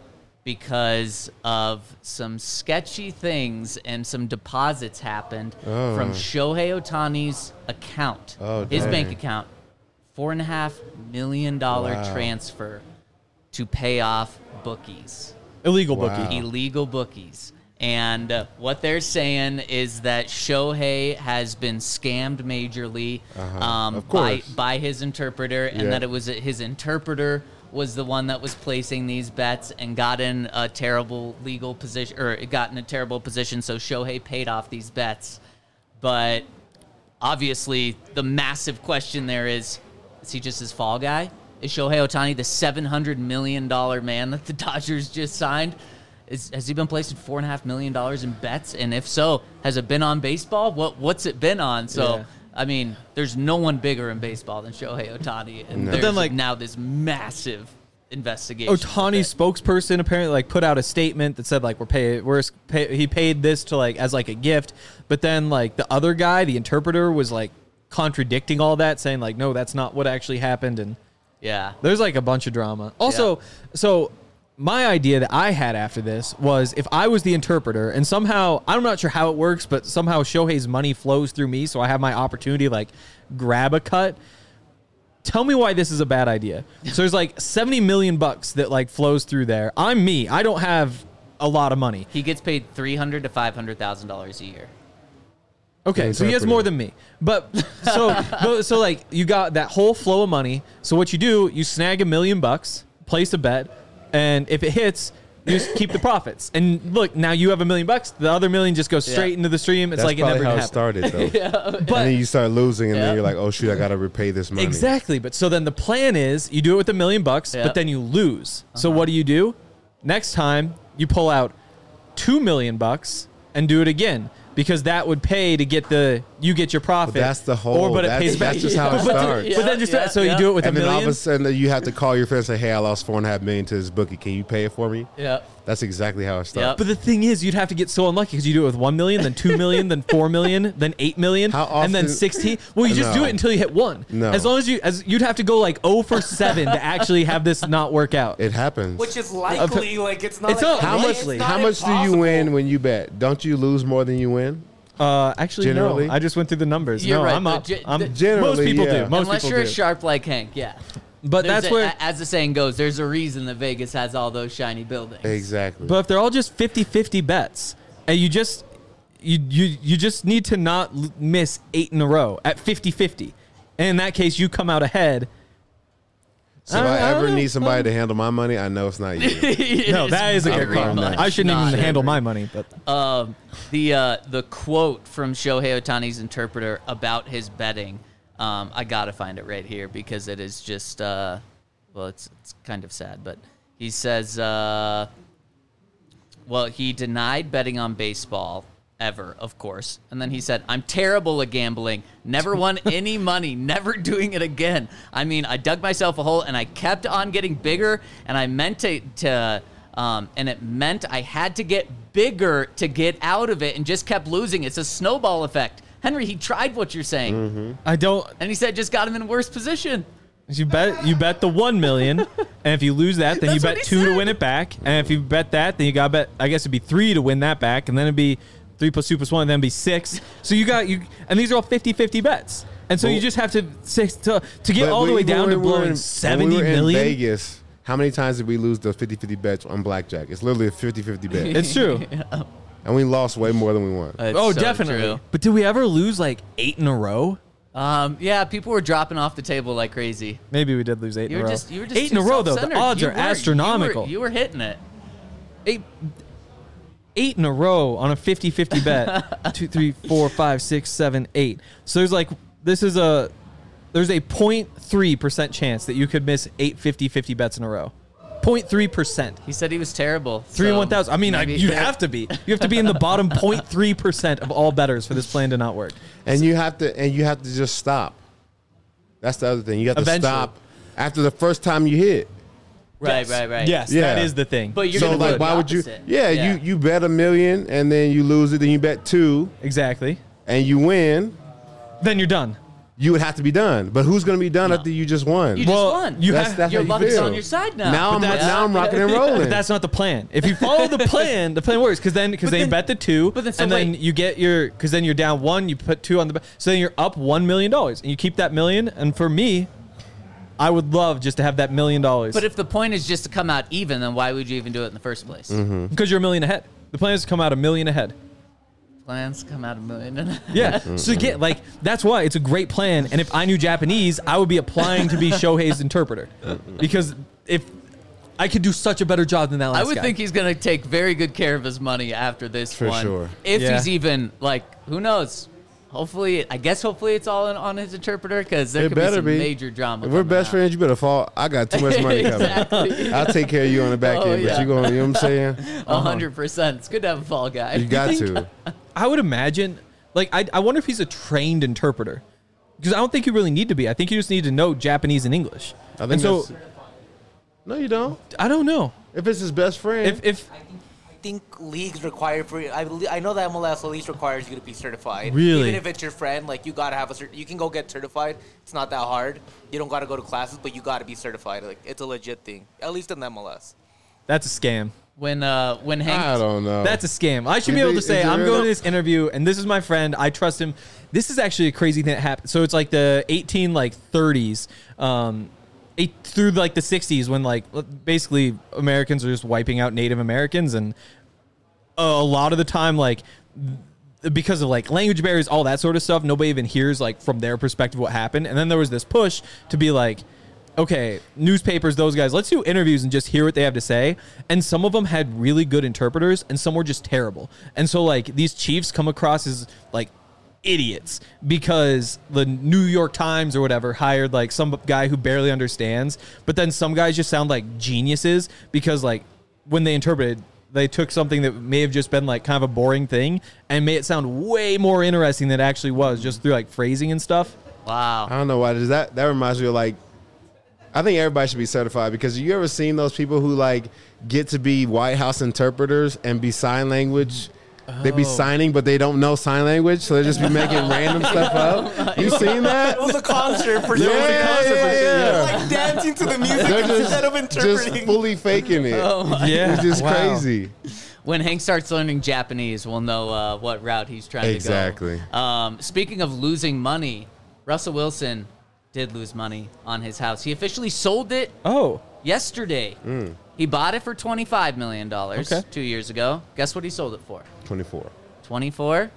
because of some sketchy things and some deposits happened Oh. from Shohei Ohtani's account, Oh, his dang. bank account, four and a half million dollar Wow. transfer to pay off bookies, Illegal Wow. bookie. illegal bookies. And uh, what they're saying is that Shohei has been scammed majorly Uh-huh. um, Of by course. by his interpreter, and Yeah. that it was his interpreter was the one that was placing these bets and got in a terrible legal position, or it got in a terrible position. So Shohei paid off these bets, but obviously the massive question there is: is he just his fall guy? Is Shohei Ohtani the seven hundred million dollar man that the Dodgers just signed? Is, has he been placing four and a half million dollars in bets? And if so, has it been on baseball? What what's it been on? So Yeah. I mean, there's no one bigger in baseball than Shohei Ohtani, and No. there's But then, like- now this massive investigation. Ohtani's spokesperson apparently like put out a statement that said like we're pay we're pay, he paid this to like as like a gift, but then like the other guy, the interpreter, was like contradicting all that, saying like no, that's not what actually happened, and Yeah. there's like a bunch of drama. Also, so my idea that I had after this was if I was the interpreter and somehow, I'm not sure how it works, but somehow Shohei's money flows through me, so I have my opportunity to like grab a cut. Tell me why this is a bad idea. So there's like seventy million bucks that like flows through there. I'm me. I don't have a lot of money. He gets paid three hundred to five hundred thousand dollars a year. Okay, The so he has interpreter. more than me. But so but, so like you got that whole flow of money. So what you do, you snag a million bucks, place a bet, and if it hits, you just keep the profits. And look, now you have a million bucks. The other million just goes straight Yeah. into the stream. It's That's like it probably never how it happened. started, though. But And then you start losing, and Yeah. then you're like, oh, shoot, I got to repay this money. exactly. But so then the plan is you do it with a million bucks, Yeah. but then you lose. So Uh-huh. what do you do? Next time you pull out two million bucks and do it again. Because that would pay to get the you get your profit. But that's the whole- Or but it that's- pays back. that's just how it but, then- starts. but then just Yeah, so yeah. you do it with And a then all million. of a sudden, you have to call your friend and say, hey, I lost four and a half million to this bookie. Can you pay it for me? Yeah. That's exactly how it starts. But the thing is, you'd have to get so unlucky because you do it with one million, then two million, then four million, then eight million, How and then often- sixteen. Well, you just do No. it until you hit one. No. As long as you, as you'd have to go like zero for seven to actually have this not work out. It happens. Which is likely, like it's not. It's like, not how much? likely. It's How not much do you impossible. win when you bet? Don't you lose more than you win? Uh, actually, Generally? no. I just went through the numbers. You're no, right, I'm but up. ge- I'm, the- Generally, most people yeah. do. Most Unless people you're do. a sharp like Hank, yeah. But There's that's a- where. a- as the saying goes, there's a reason that Vegas has all those shiny buildings. Exactly. But if they're all just fifty-fifty bets, and you just you you you just need to not l- miss eight in a row at fifty-fifty. And in that case, you come out ahead. so if I- I, I don't ever know. need somebody to handle my money, I know it's not you. It No, that is a good very call. much I shouldn't not even handle Henry. my money, but Um, the uh, the quote from Shohei Ohtani's interpreter about his betting, um, I gotta find it right here because it is just uh, well, it's it's kind of sad, but he says, uh, well, he denied betting on baseball ever, of course, and then he said, "I'm terrible at gambling. Never won any money. Never doing it again. I mean, I dug myself a hole and I kept on getting bigger, and I meant to to." Um, and it meant I had to get bigger to get out of it and just kept losing. It's a snowball effect. Henry, he tried what you're saying. Mm-hmm. I don't. And he said it just got him in a worse position. You bet you bet the one million, and if you lose that, then you That's what bet he two to said. win it back. And if you bet that, then you got to bet. I guess it'd be three to win that back, and then it'd be three plus two plus one, and then it'd be six. So you got you, and these are all fifty-fifty bets. And so Well- you just have to six to to get But all the we- way down when to we were blowing in- seventy when we were million. in Vegas, How many times did we lose the fifty-fifty bets on blackjack? It's literally a fifty-fifty bet. It's true. And we lost way more than we won. It's oh, so definitely. true. But did we ever lose like eight in a row? Um, yeah, people were dropping off the table like crazy. Maybe we did lose eight You in were a row. just, you were just eight too in a row, though. The self-centered. odds You are were- astronomical. You were, you were hitting it. eight, eight in a row on a fifty-fifty bet. Two, three, four, five, six, seven, eight. So there's like, this is a, there's a zero point three percent chance that you could miss eight fifty-fifty bets in a row. zero point three percent. He said he was terrible. Three so and one thousand. I mean, I, maybe- you'd have to be. You have to be in the bottom zero point three percent of all bettors for this plan to not work. And you have to and you have to just stop. That's the other thing. You have to Eventually. stop after the first time you hit. Right, Yes. right, right. Yes, Yeah. that is the thing. But you're so gonna do like, the why would you? opposite. Yeah, Yeah. you you bet a million and then you lose it. Then you bet two exactly. and you win. Then you're done. You would have to be done. But who's going to be done No. after you just won? You Well, just won. you That's- have- that's Your how you luck is feel. on your side now. Now I'm that's- now I'm rocking and rolling. But that's not the plan. If you follow the plan, the plan works because then because But they then- bet the two, but then- so and then wait. you get your because then you're down one, you put two on the bet, so then you're up one million dollars, and you keep that million. And for me, I would love just to have that million dollars. But if the point is just to come out even, then why would you even do it in the first place? Mm-hmm. because you're a million ahead, the plan is to come out a million ahead. Plans come out a million. Yeah. So get like that's why it's a great plan. And if I knew Japanese, I would be applying to be Shohei's interpreter because if I could do such a better job than that last I would guy. think he's going to take very good care of his money after this For one. sure. If Yeah. he's even, like, who knows? Hopefully, I guess hopefully it's all in, on his interpreter because there It could be better some be. major drama. If we're coming best out. friends, you better fall. I got too much money coming. Exactly. I'll take care of you on the back Oh, end, yeah. but you going, you know what I'm saying? A hundred percent. It's good to have a fall guy. You got to. I would imagine, like, I, I wonder if he's a trained interpreter. Because I don't think you really need to be. I think you just need to know Japanese and English. I think and so, that's- No, you don't. I don't know. If it's his best friend. If, if I think, I think leagues require for I, believe- I know that M L S at least requires you to be certified. Really? Even if it's your friend, like you gotta have a cert. You can go get certified. It's not that hard. You don't gotta go to classes, but you gotta be certified. Like it's a legit thing. At least in the M L S. that's a scam. When uh when Hank I don't know. That's a scam. I should Is be able it- to say, is it I'm real? going to this interview, and this is my friend. I trust him. This is actually a crazy thing that happened. So it's like the eighteen like thirties, um, eight, through like the sixties, when like basically Americans are just wiping out Native Americans, and a lot of the time, like because of like language barriers, all that sort of stuff, nobody even hears like from their perspective what happened. And then there was this push to be like, okay, newspapers, those guys, let's do interviews and just hear what they have to say. And some of them had really good interpreters and some were just terrible. And so like these chiefs come across as like idiots because the New York Times or whatever hired like some guy who barely understands, but then some guys just sound like geniuses because like when they interpreted, they took something that may have just been like kind of a boring thing and made it sound way more interesting than it actually was just through like phrasing and stuff. wow. I don't know why. Does that that reminds me of like, I think everybody should be certified because you ever seen those people who like get to be White House interpreters and be sign language? They be Oh. signing, but they don't know sign language, so they just be making random stuff up. You seen that? It was a concert for Yeah, sure. yeah, yeah, They're yeah. like dancing to the music They're instead of just, just interpreting. fully faking it. Yeah. It's just Wow. crazy. When Hank starts learning Japanese, we'll know uh, what route he's trying Exactly. to go. Um, speaking of losing money, Russell Wilson did lose money on his house. He officially sold it Oh, yesterday. He bought it for twenty-five million dollars Okay. two years ago. Guess what he sold it for? twenty-four. twenty-four?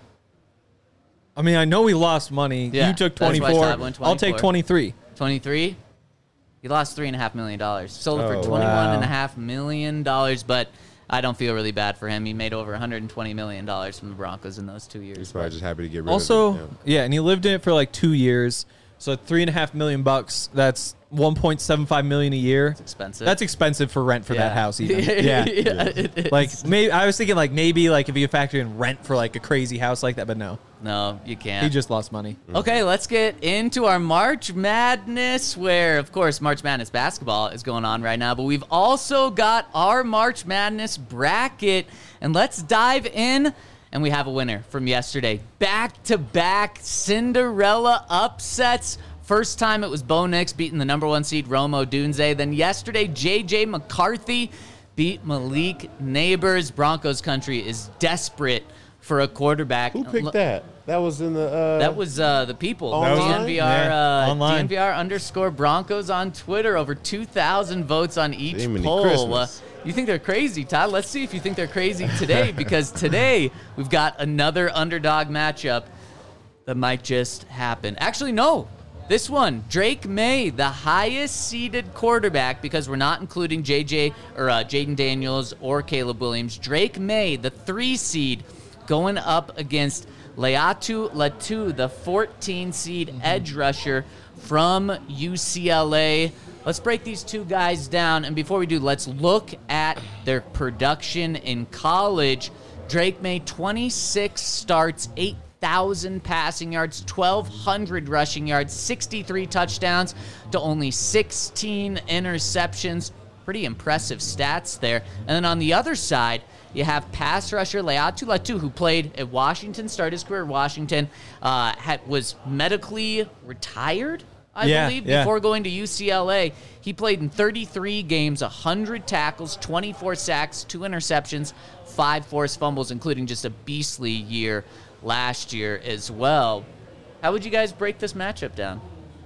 I mean, I know we lost money. Yeah, you took that's why I twenty-four. said I went I'll take twenty-four. twenty-three. twenty-three? He lost three point five million dollars. Sold it Oh, for wow. twenty-one point five million dollars, but I don't feel really bad for him. He made over one hundred twenty million dollars from the Broncos in those two years. He's probably just happy to get rid Also, of it. yeah, and he lived in it for like two years. So three and a half million bucks. That's one point seven five million a year. It's expensive. That's expensive for rent for that Yeah. house. Even. Yeah. yeah, it is. Like maybe I was thinking like maybe like if you factor in rent for like a crazy house like that, but no, No, you can't. he just lost money. Okay, let's get into our March Madness, where, of course, March Madness basketball is going on right now, but we've also got our March Madness bracket, and let's dive in, and we have a winner from yesterday. Back-to-back Cinderella upsets. First time it was Bo Nix beating the number one seed Rome Odunze. Then yesterday, J J McCarthy beat Malik Neighbors. Broncos country is desperate for a quarterback. Who picked that? That was in the. Uh, That was uh, the people. Online? D N V R, Yeah, uh, online. D N V R underscore Broncos on Twitter. Over two thousand votes on each Jiminy poll. Christmas. Uh, you think they're crazy, Todd? Let's see if you think they're crazy today, because today we've got another underdog matchup that might just happen. Actually, no. This one, Drake May, the highest seeded quarterback, because we're not including J J or uh, Jaden Daniels or Caleb Williams. Drake May, the three seed, going up against Leatu Latu, the fourteen seed mm-hmm. edge rusher from U C L A. Let's break these two guys down, and before we do, let's look at their production in college. Drake May, twenty-six starts, eight thousand passing yards, twelve hundred rushing yards, sixty-three touchdowns to only sixteen interceptions. Pretty impressive stats there. And then on the other side, you have pass rusher Leatu Latu, who played at Washington, started his career at Washington, uh, had, was medically retired, I Yeah, believe, yeah. before going to U C L A. He played in thirty-three games, one hundred tackles, twenty-four sacks, two interceptions, five forced fumbles, including just a beastly year last year as well. How would you guys break this matchup down?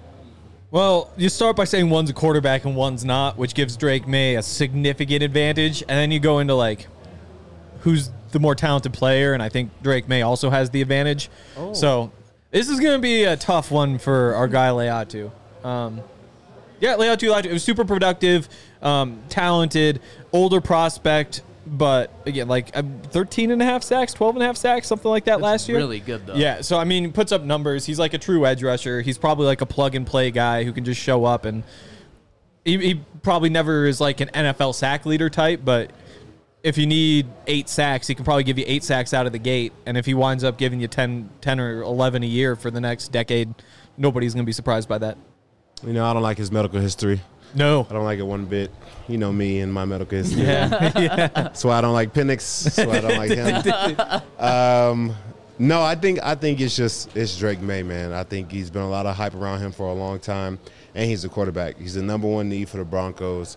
Well, you start by saying one's a quarterback and one's not, which gives Drake May a significant advantage. And then you go into, like, who's the more talented player, and I think Drake May also has the advantage. Oh. So this is going to be a tough one for our guy Leatu. Um, yeah, Leatu, Leatu, it was super productive, um, talented, older prospect, but again, like uh, thirteen and a half sacks, twelve and a half sacks, something like that That's last year. really good, though. Yeah, so I mean, he puts up numbers. He's like a true edge rusher. He's probably like a plug and play guy who can just show up, and he, he probably never is like an N F L sack leader type, but if you need eight sacks, he can probably give you eight sacks out of the gate. And if he winds up giving you ten, ten or eleven a year for the next decade, nobody's going to be surprised by that. You know, I don't like his medical history. No. I don't like it one bit. You know me and my medical history. Yeah. yeah. That's why I don't like Penix. That's why I don't like him. Um, no, I think I think it's just it's Drake May, man. I think he's been a lot of hype around him for a long time, and he's a quarterback. He's the number one need for the Broncos,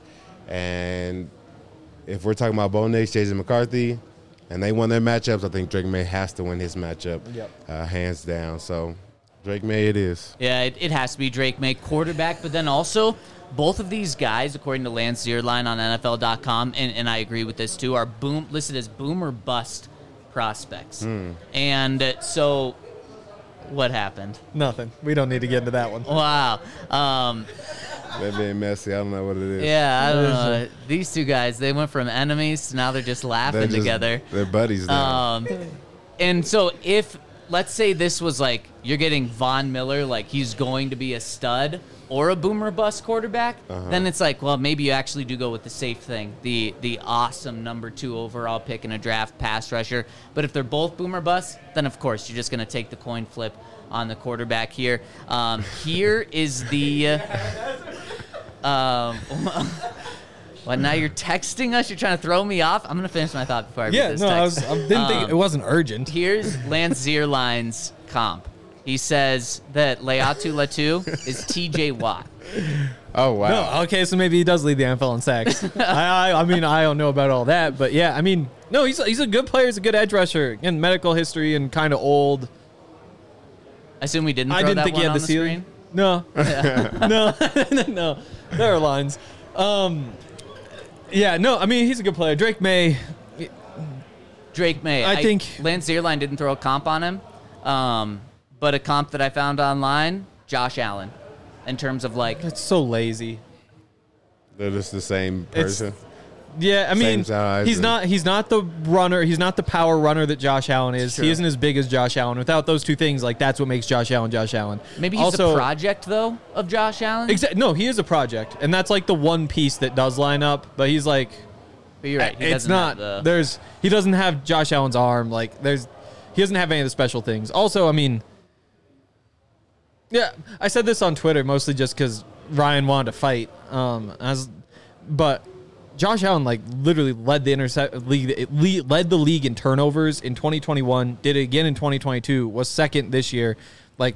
and if we're talking about Bo Nix, Jason McCarthy, and they won their matchups, I think Drake May has to win his matchup, Yep. uh, hands down. So Drake May it is. Yeah, it, it has to be Drake May, quarterback, but then also both of these guys, according to Lance Zierlein on N F L dot com, and, and I agree with this too, are boom listed as boom or bust prospects. Mm. And uh, so what happened? Nothing. We don't need to get into that one. Wow. Um, That being messy, I don't know what it is. yeah, I don't know. These two guys, they went from enemies to now they're just laughing They're just- together. They're buddies now. Um, and so if, let's say this was like, you're getting Von Miller, like he's going to be a stud or a boomer bust quarterback, Uh-huh. then it's like, well, maybe you actually do go with the safe thing, the the awesome number two overall pick in a draft pass rusher. But if they're both boomer bust, then of course you're just going to take the coin flip on the quarterback here. Um, here is the... Um, well, now you're texting us. You're trying to throw me off. I'm gonna finish my thought before I read Yeah, this no, I, was, text. I didn't think Um, it wasn't urgent. Here's Lance Zierlein's comp. He says that Leatu Latu is T J Watt. Oh, wow. No, okay, so maybe he does lead the N F L in sacks. I, I, I mean, I don't know about all that, but yeah, I mean, no, he's he's a good player. He's a good edge rusher. Again, medical history and kind of old. I assume we didn't throw I didn't that think one he had on the the ceiling. screen. No, no, no. There are lines. Um, yeah, no, I mean, he's a good player. Drake May. Drake May. I think- Lance Zierlein didn't throw a comp on him, um, but a comp that I found online, Josh Allen, in terms of like It's so lazy. They're just the same It's- person. Yeah, I mean, Same size he's and- not he's not the runner. He's not the power runner that Josh Allen is. Sure. He isn't as big as Josh Allen. Without those two things, like that's what makes Josh Allen Josh Allen. maybe he's also, a project though of Josh Allen. Exa- no, he is a project, and that's like the one piece that does line up. But he's like, But you're right. He it's doesn't not. have the- There's he doesn't have Josh Allen's arm. Like there's he doesn't have any of the special things. Also, I mean, yeah, I said this on Twitter mostly just because Ryan wanted to fight. Um, as but Josh Allen like literally led the intercept league it le- led the league in turnovers in twenty twenty-one. Did it again in twenty twenty-two. Was second this year. Like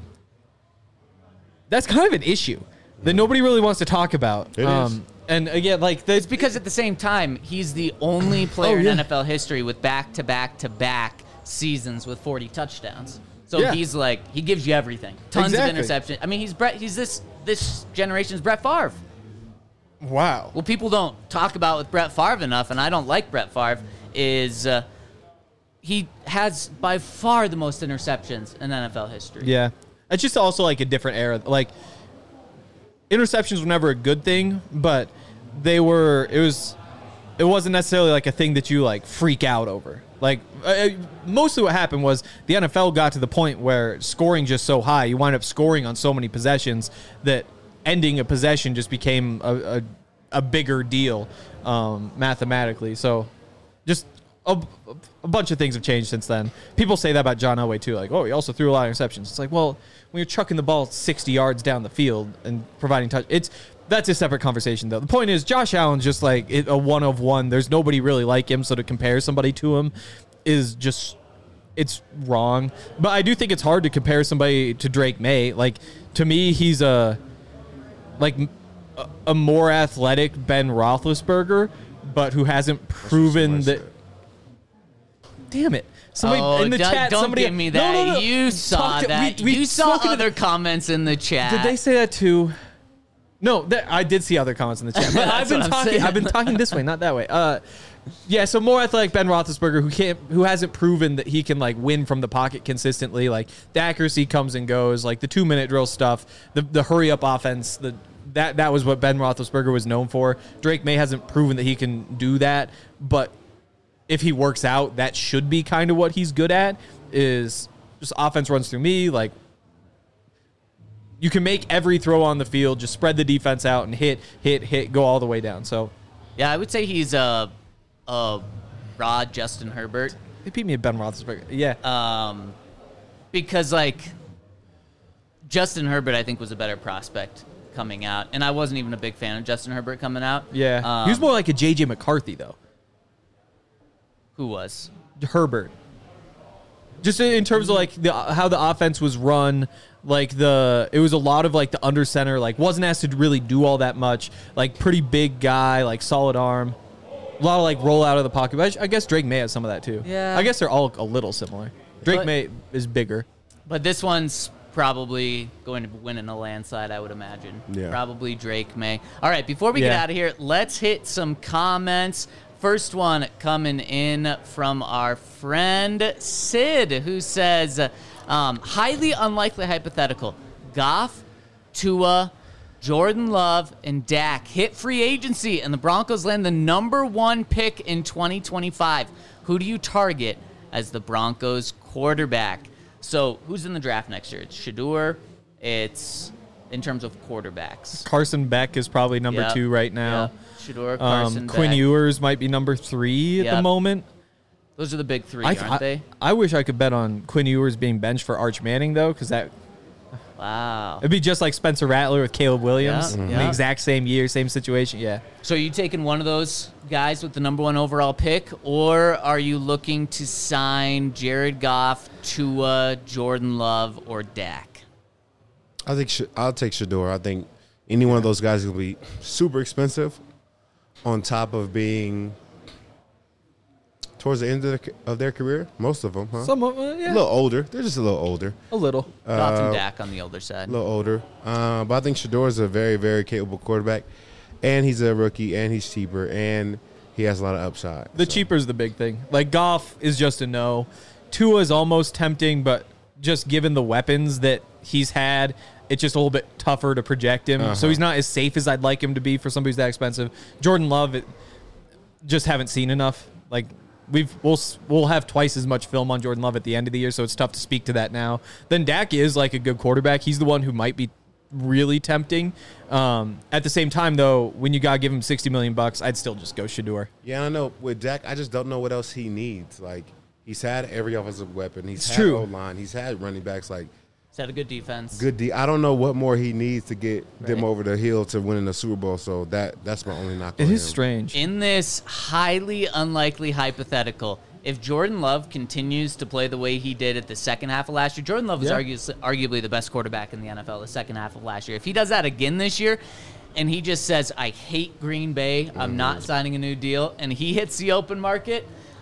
that's kind of an issue that nobody really wants to talk about. It is. And again, like the, It's because at the same time, he's the only player Oh, in yeah. N F L history with back-to-back-to-back seasons with forty touchdowns. So Yeah. he's like, he gives you everything. Tons Exactly. of interceptions. I mean, he's Brett, he's this this generation's Brett Favre. Wow. What people don't talk about with Brett Favre enough, and I don't like Brett Favre, is uh, he has by far the most interceptions in N F L history. Yeah. It's just also like a different era. Like, interceptions were never a good thing, but they were, it was, it wasn't necessarily like a thing that you like freak out over. Like, uh, mostly what happened was the N F L got to the point where scoring just so high, you wind up scoring on so many possessions that ending a possession just became a, a, a bigger deal um, mathematically. So just a, a bunch of things have changed since then. People say that about John Elway too. Like, oh, he also threw a lot of interceptions. It's like, well, when you're chucking the ball sixty yards down the field and providing touch, it's that's a separate conversation though. The point is, Josh Allen's just like a one of one. There's nobody really like him, so to compare somebody to him is just, it's wrong. But I do think it's hard to compare somebody to Drake May. Like, to me, he's a like a, a more athletic Ben Roethlisberger, but who hasn't proven that. Damn it. Somebody oh, in the don't, chat, don't somebody give me No, that. no, no. You saw Talk- that. we- we you saw spoken- other comments in the chat. Did they say that too? No, that, I did see other comments in the chat. But I've been what I'm talking. saying. I've been talking this way, not that way. Uh, yeah. So more athletic Ben Roethlisberger, who can't, who hasn't proven that he can like win from the pocket consistently. Like, the accuracy comes and goes. Like the two minute drill stuff, the the hurry up offense. The that that was what Ben Roethlisberger was known for. Drake May hasn't proven that he can do that, but if he works out, that should be kind of what he's good at. Is just offense runs through me, like. You can make every throw on the field, just spread the defense out and hit, hit, hit, go all the way down. So Yeah, I would say he's a, a Rod Justin Herbert. they beat me at Ben Roethlisberger. Yeah, Um, because, like, Justin Herbert, I think, was a better prospect coming out. And I wasn't even a big fan of Justin Herbert coming out. yeah. Um, he was more like a J J McCarthy though. Who was? Herbert. Just in terms of like the how the offense was run, like the it was a lot of like the under center, like wasn't asked to really do all that much. Like pretty big guy, like solid arm, a lot of like roll out of the pocket. But I guess Drake May has some of that too. Yeah. I guess they're all a little similar. Drake But- May is bigger. But this one's probably going to win in a landslide, I would imagine. Yeah. Probably Drake May. All right, before we get Yeah. out of here, let's hit some comments. First one coming in from our friend Sid, who says, um, highly unlikely hypothetical. Goff, Tua, Jordan Love, and Dak hit free agency, and the Broncos land the number one pick in twenty twenty-five. Who do you target as the Broncos quarterback? So who's in the draft next year? It's Shador. It's in terms of quarterbacks. Carson Beck is probably number Yep. two right now. Yep. Shador, Carson, Um, Quinn Beck. Ewers might be number three at Yep. the moment. Those are the big three, I, aren't I, they? I wish I could bet on Quinn Ewers being benched for Arch Manning though, because that Wow. it'd be just like Spencer Rattler with Caleb Williams, Yeah, in yeah. the exact same year, same situation. Yeah, So are you taking one of those guys with the number one overall pick, or are you looking to sign Jared Goff, Tua, Jordan Love, or Dak? I think Sh- I'll take Shador. I think any one of those guys will be super expensive, on top of being towards the end of their, of their career. Most of them, huh? some of uh, yeah, A little older. They're just a little older. a little. Goff and Uh, Dak on the older side. A little older. Uh, but I think Shador is a very, very capable quarterback, and he's a rookie, and he's cheaper, and he has a lot of upside. The So, cheaper is the big thing. Like Goff is just a no. Tua is almost tempting, but just given the weapons that he's had, it's just a little bit tougher to project him. Uh-huh. So he's not as safe as I'd like him to be for somebody who's that expensive. Jordan Love, it, just haven't seen enough. Like we've we'll we'll have twice as much film on Jordan Love at the end of the year, so it's tough to speak to that now. Then Dak is like a good quarterback. He's the one who might be really tempting. Um, at the same time, though, when you gotta give him sixty million bucks, I'd still just go Shador. Yeah, I know. With Dak, I just don't know what else he needs. Like, he's had every offensive weapon. He's It's had true. O-line. He's had running backs. Like, He's had a good defense. good D. I don't know what more he needs to get them Right. over the hill to winning the Super Bowl. So that that's my only knock. It on is him. strange. In this highly unlikely hypothetical, if Jordan Love continues to play the way he did at the second half of last year, Jordan Love was Yeah. argu- arguably the best quarterback in the N F L the second half of last year. If he does that again this year, and he just says, I hate Green Bay, I'm not signing a new deal, and he hits the open market,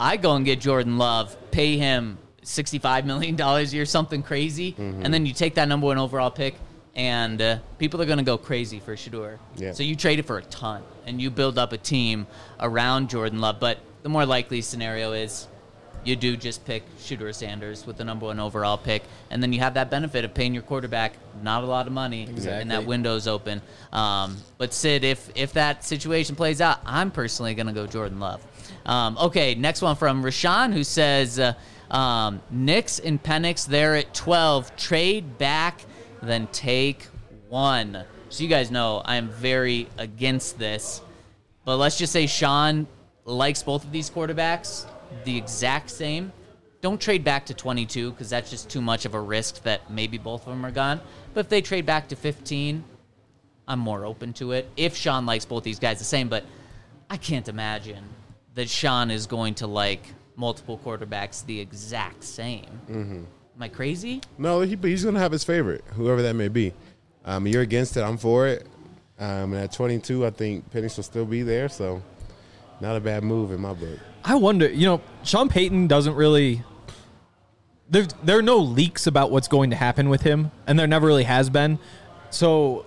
I go and get Jordan Love, pay him sixty-five million dollars a year, something crazy, Mm-hmm. and then you take that number one overall pick, and uh, people are going to go crazy for Shedeur. Yeah. So you trade it for a ton, and you build up a team around Jordan Love. But the more likely scenario is you do just pick Shedeur Sanders with the number one overall pick, and then you have that benefit of paying your quarterback not a lot of money, Exactly. and that window's open. Um, but Sid, if if that situation plays out, I'm personally going to go Jordan Love. Um, okay, next one from Rashawn, who says, uh, um, Knicks and Penix there at twelve. Trade back, then take one. So you guys know I am very against this. But let's just say Sean likes both of these quarterbacks the exact same. Don't trade back to twenty-two because that's just too much of a risk that maybe both of them are gone. But if they trade back to fifteen, I'm more open to it. If Sean likes both these guys the same, but I can't imagine that Sean is going to like multiple quarterbacks the exact same. Mm-hmm. Am I crazy? No, he, he's going to have his favorite, whoever that may be. Um, you're against it. I'm for it. Um, and at twenty-two, I think Penix will still be there. So not a bad move in my book. I wonder, you know, Sean Payton doesn't really. There, there are no leaks about what's going to happen with him, and there never really has been. So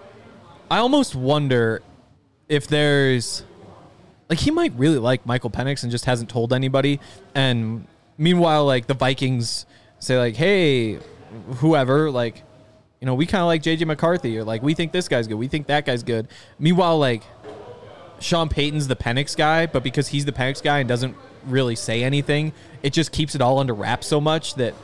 I almost wonder if there's. Like, he might really like Michael Penix and just hasn't told anybody. And meanwhile, like, the Vikings say, like, hey, whoever, like, you know, we kind of like J J McCarthy, or, like, we think this guy's good. We think that guy's good. Meanwhile, like, Sean Payton's the Penix guy, but because he's the Penix guy and doesn't really say anything, it just keeps it all under wraps so much that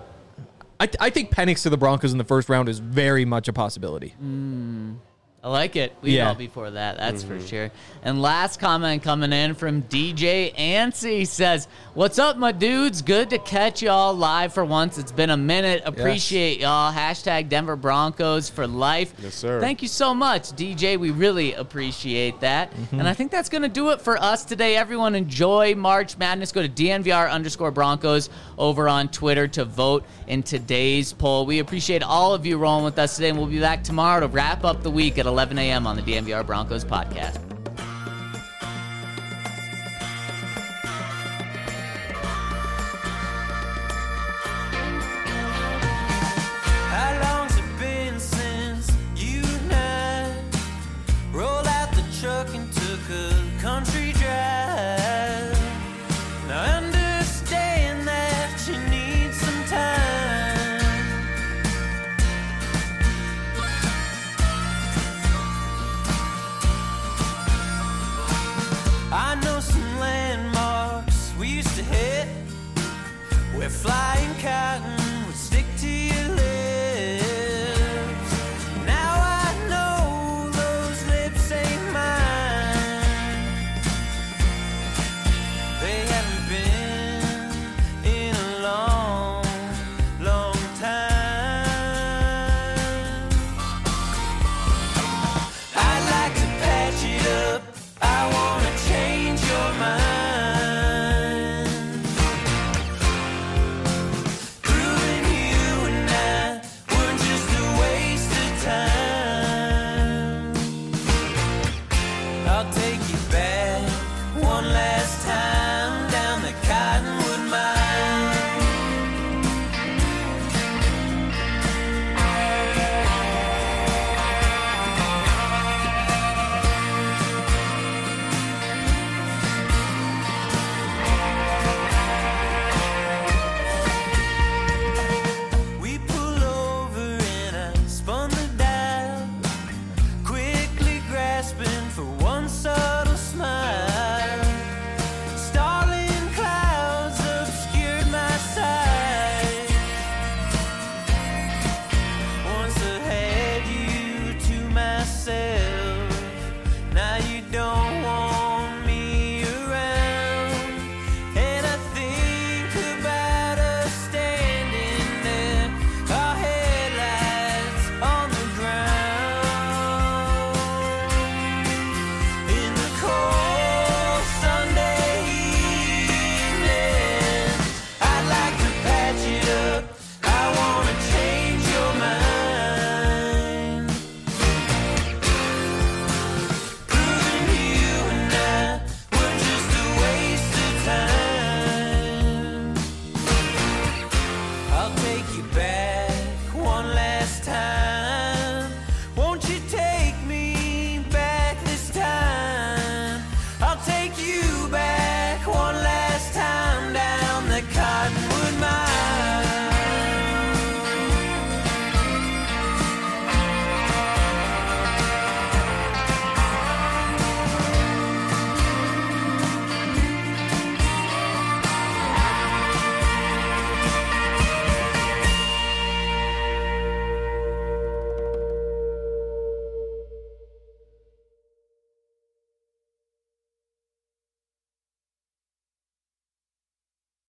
I, th- I think Penix to the Broncos in the first round is very much a possibility. Mm, I like it. We'd Yeah. all be for that, that's for sure. And last comment coming in from D J Ansi says, what's up, my dudes? Good to catch y'all live for once. It's been a minute. Appreciate y'all. Hashtag Denver Broncos for life. Yes, sir. Thank you so much, D J. We really appreciate that. And I think that's going to do it for us today. Everyone enjoy March Madness. Go to D N V R underscore Broncos over on Twitter to vote in today's poll. We appreciate all of you rolling with us today, and we'll be back tomorrow to wrap up the week at eleven a.m. on the D N V R Broncos podcast.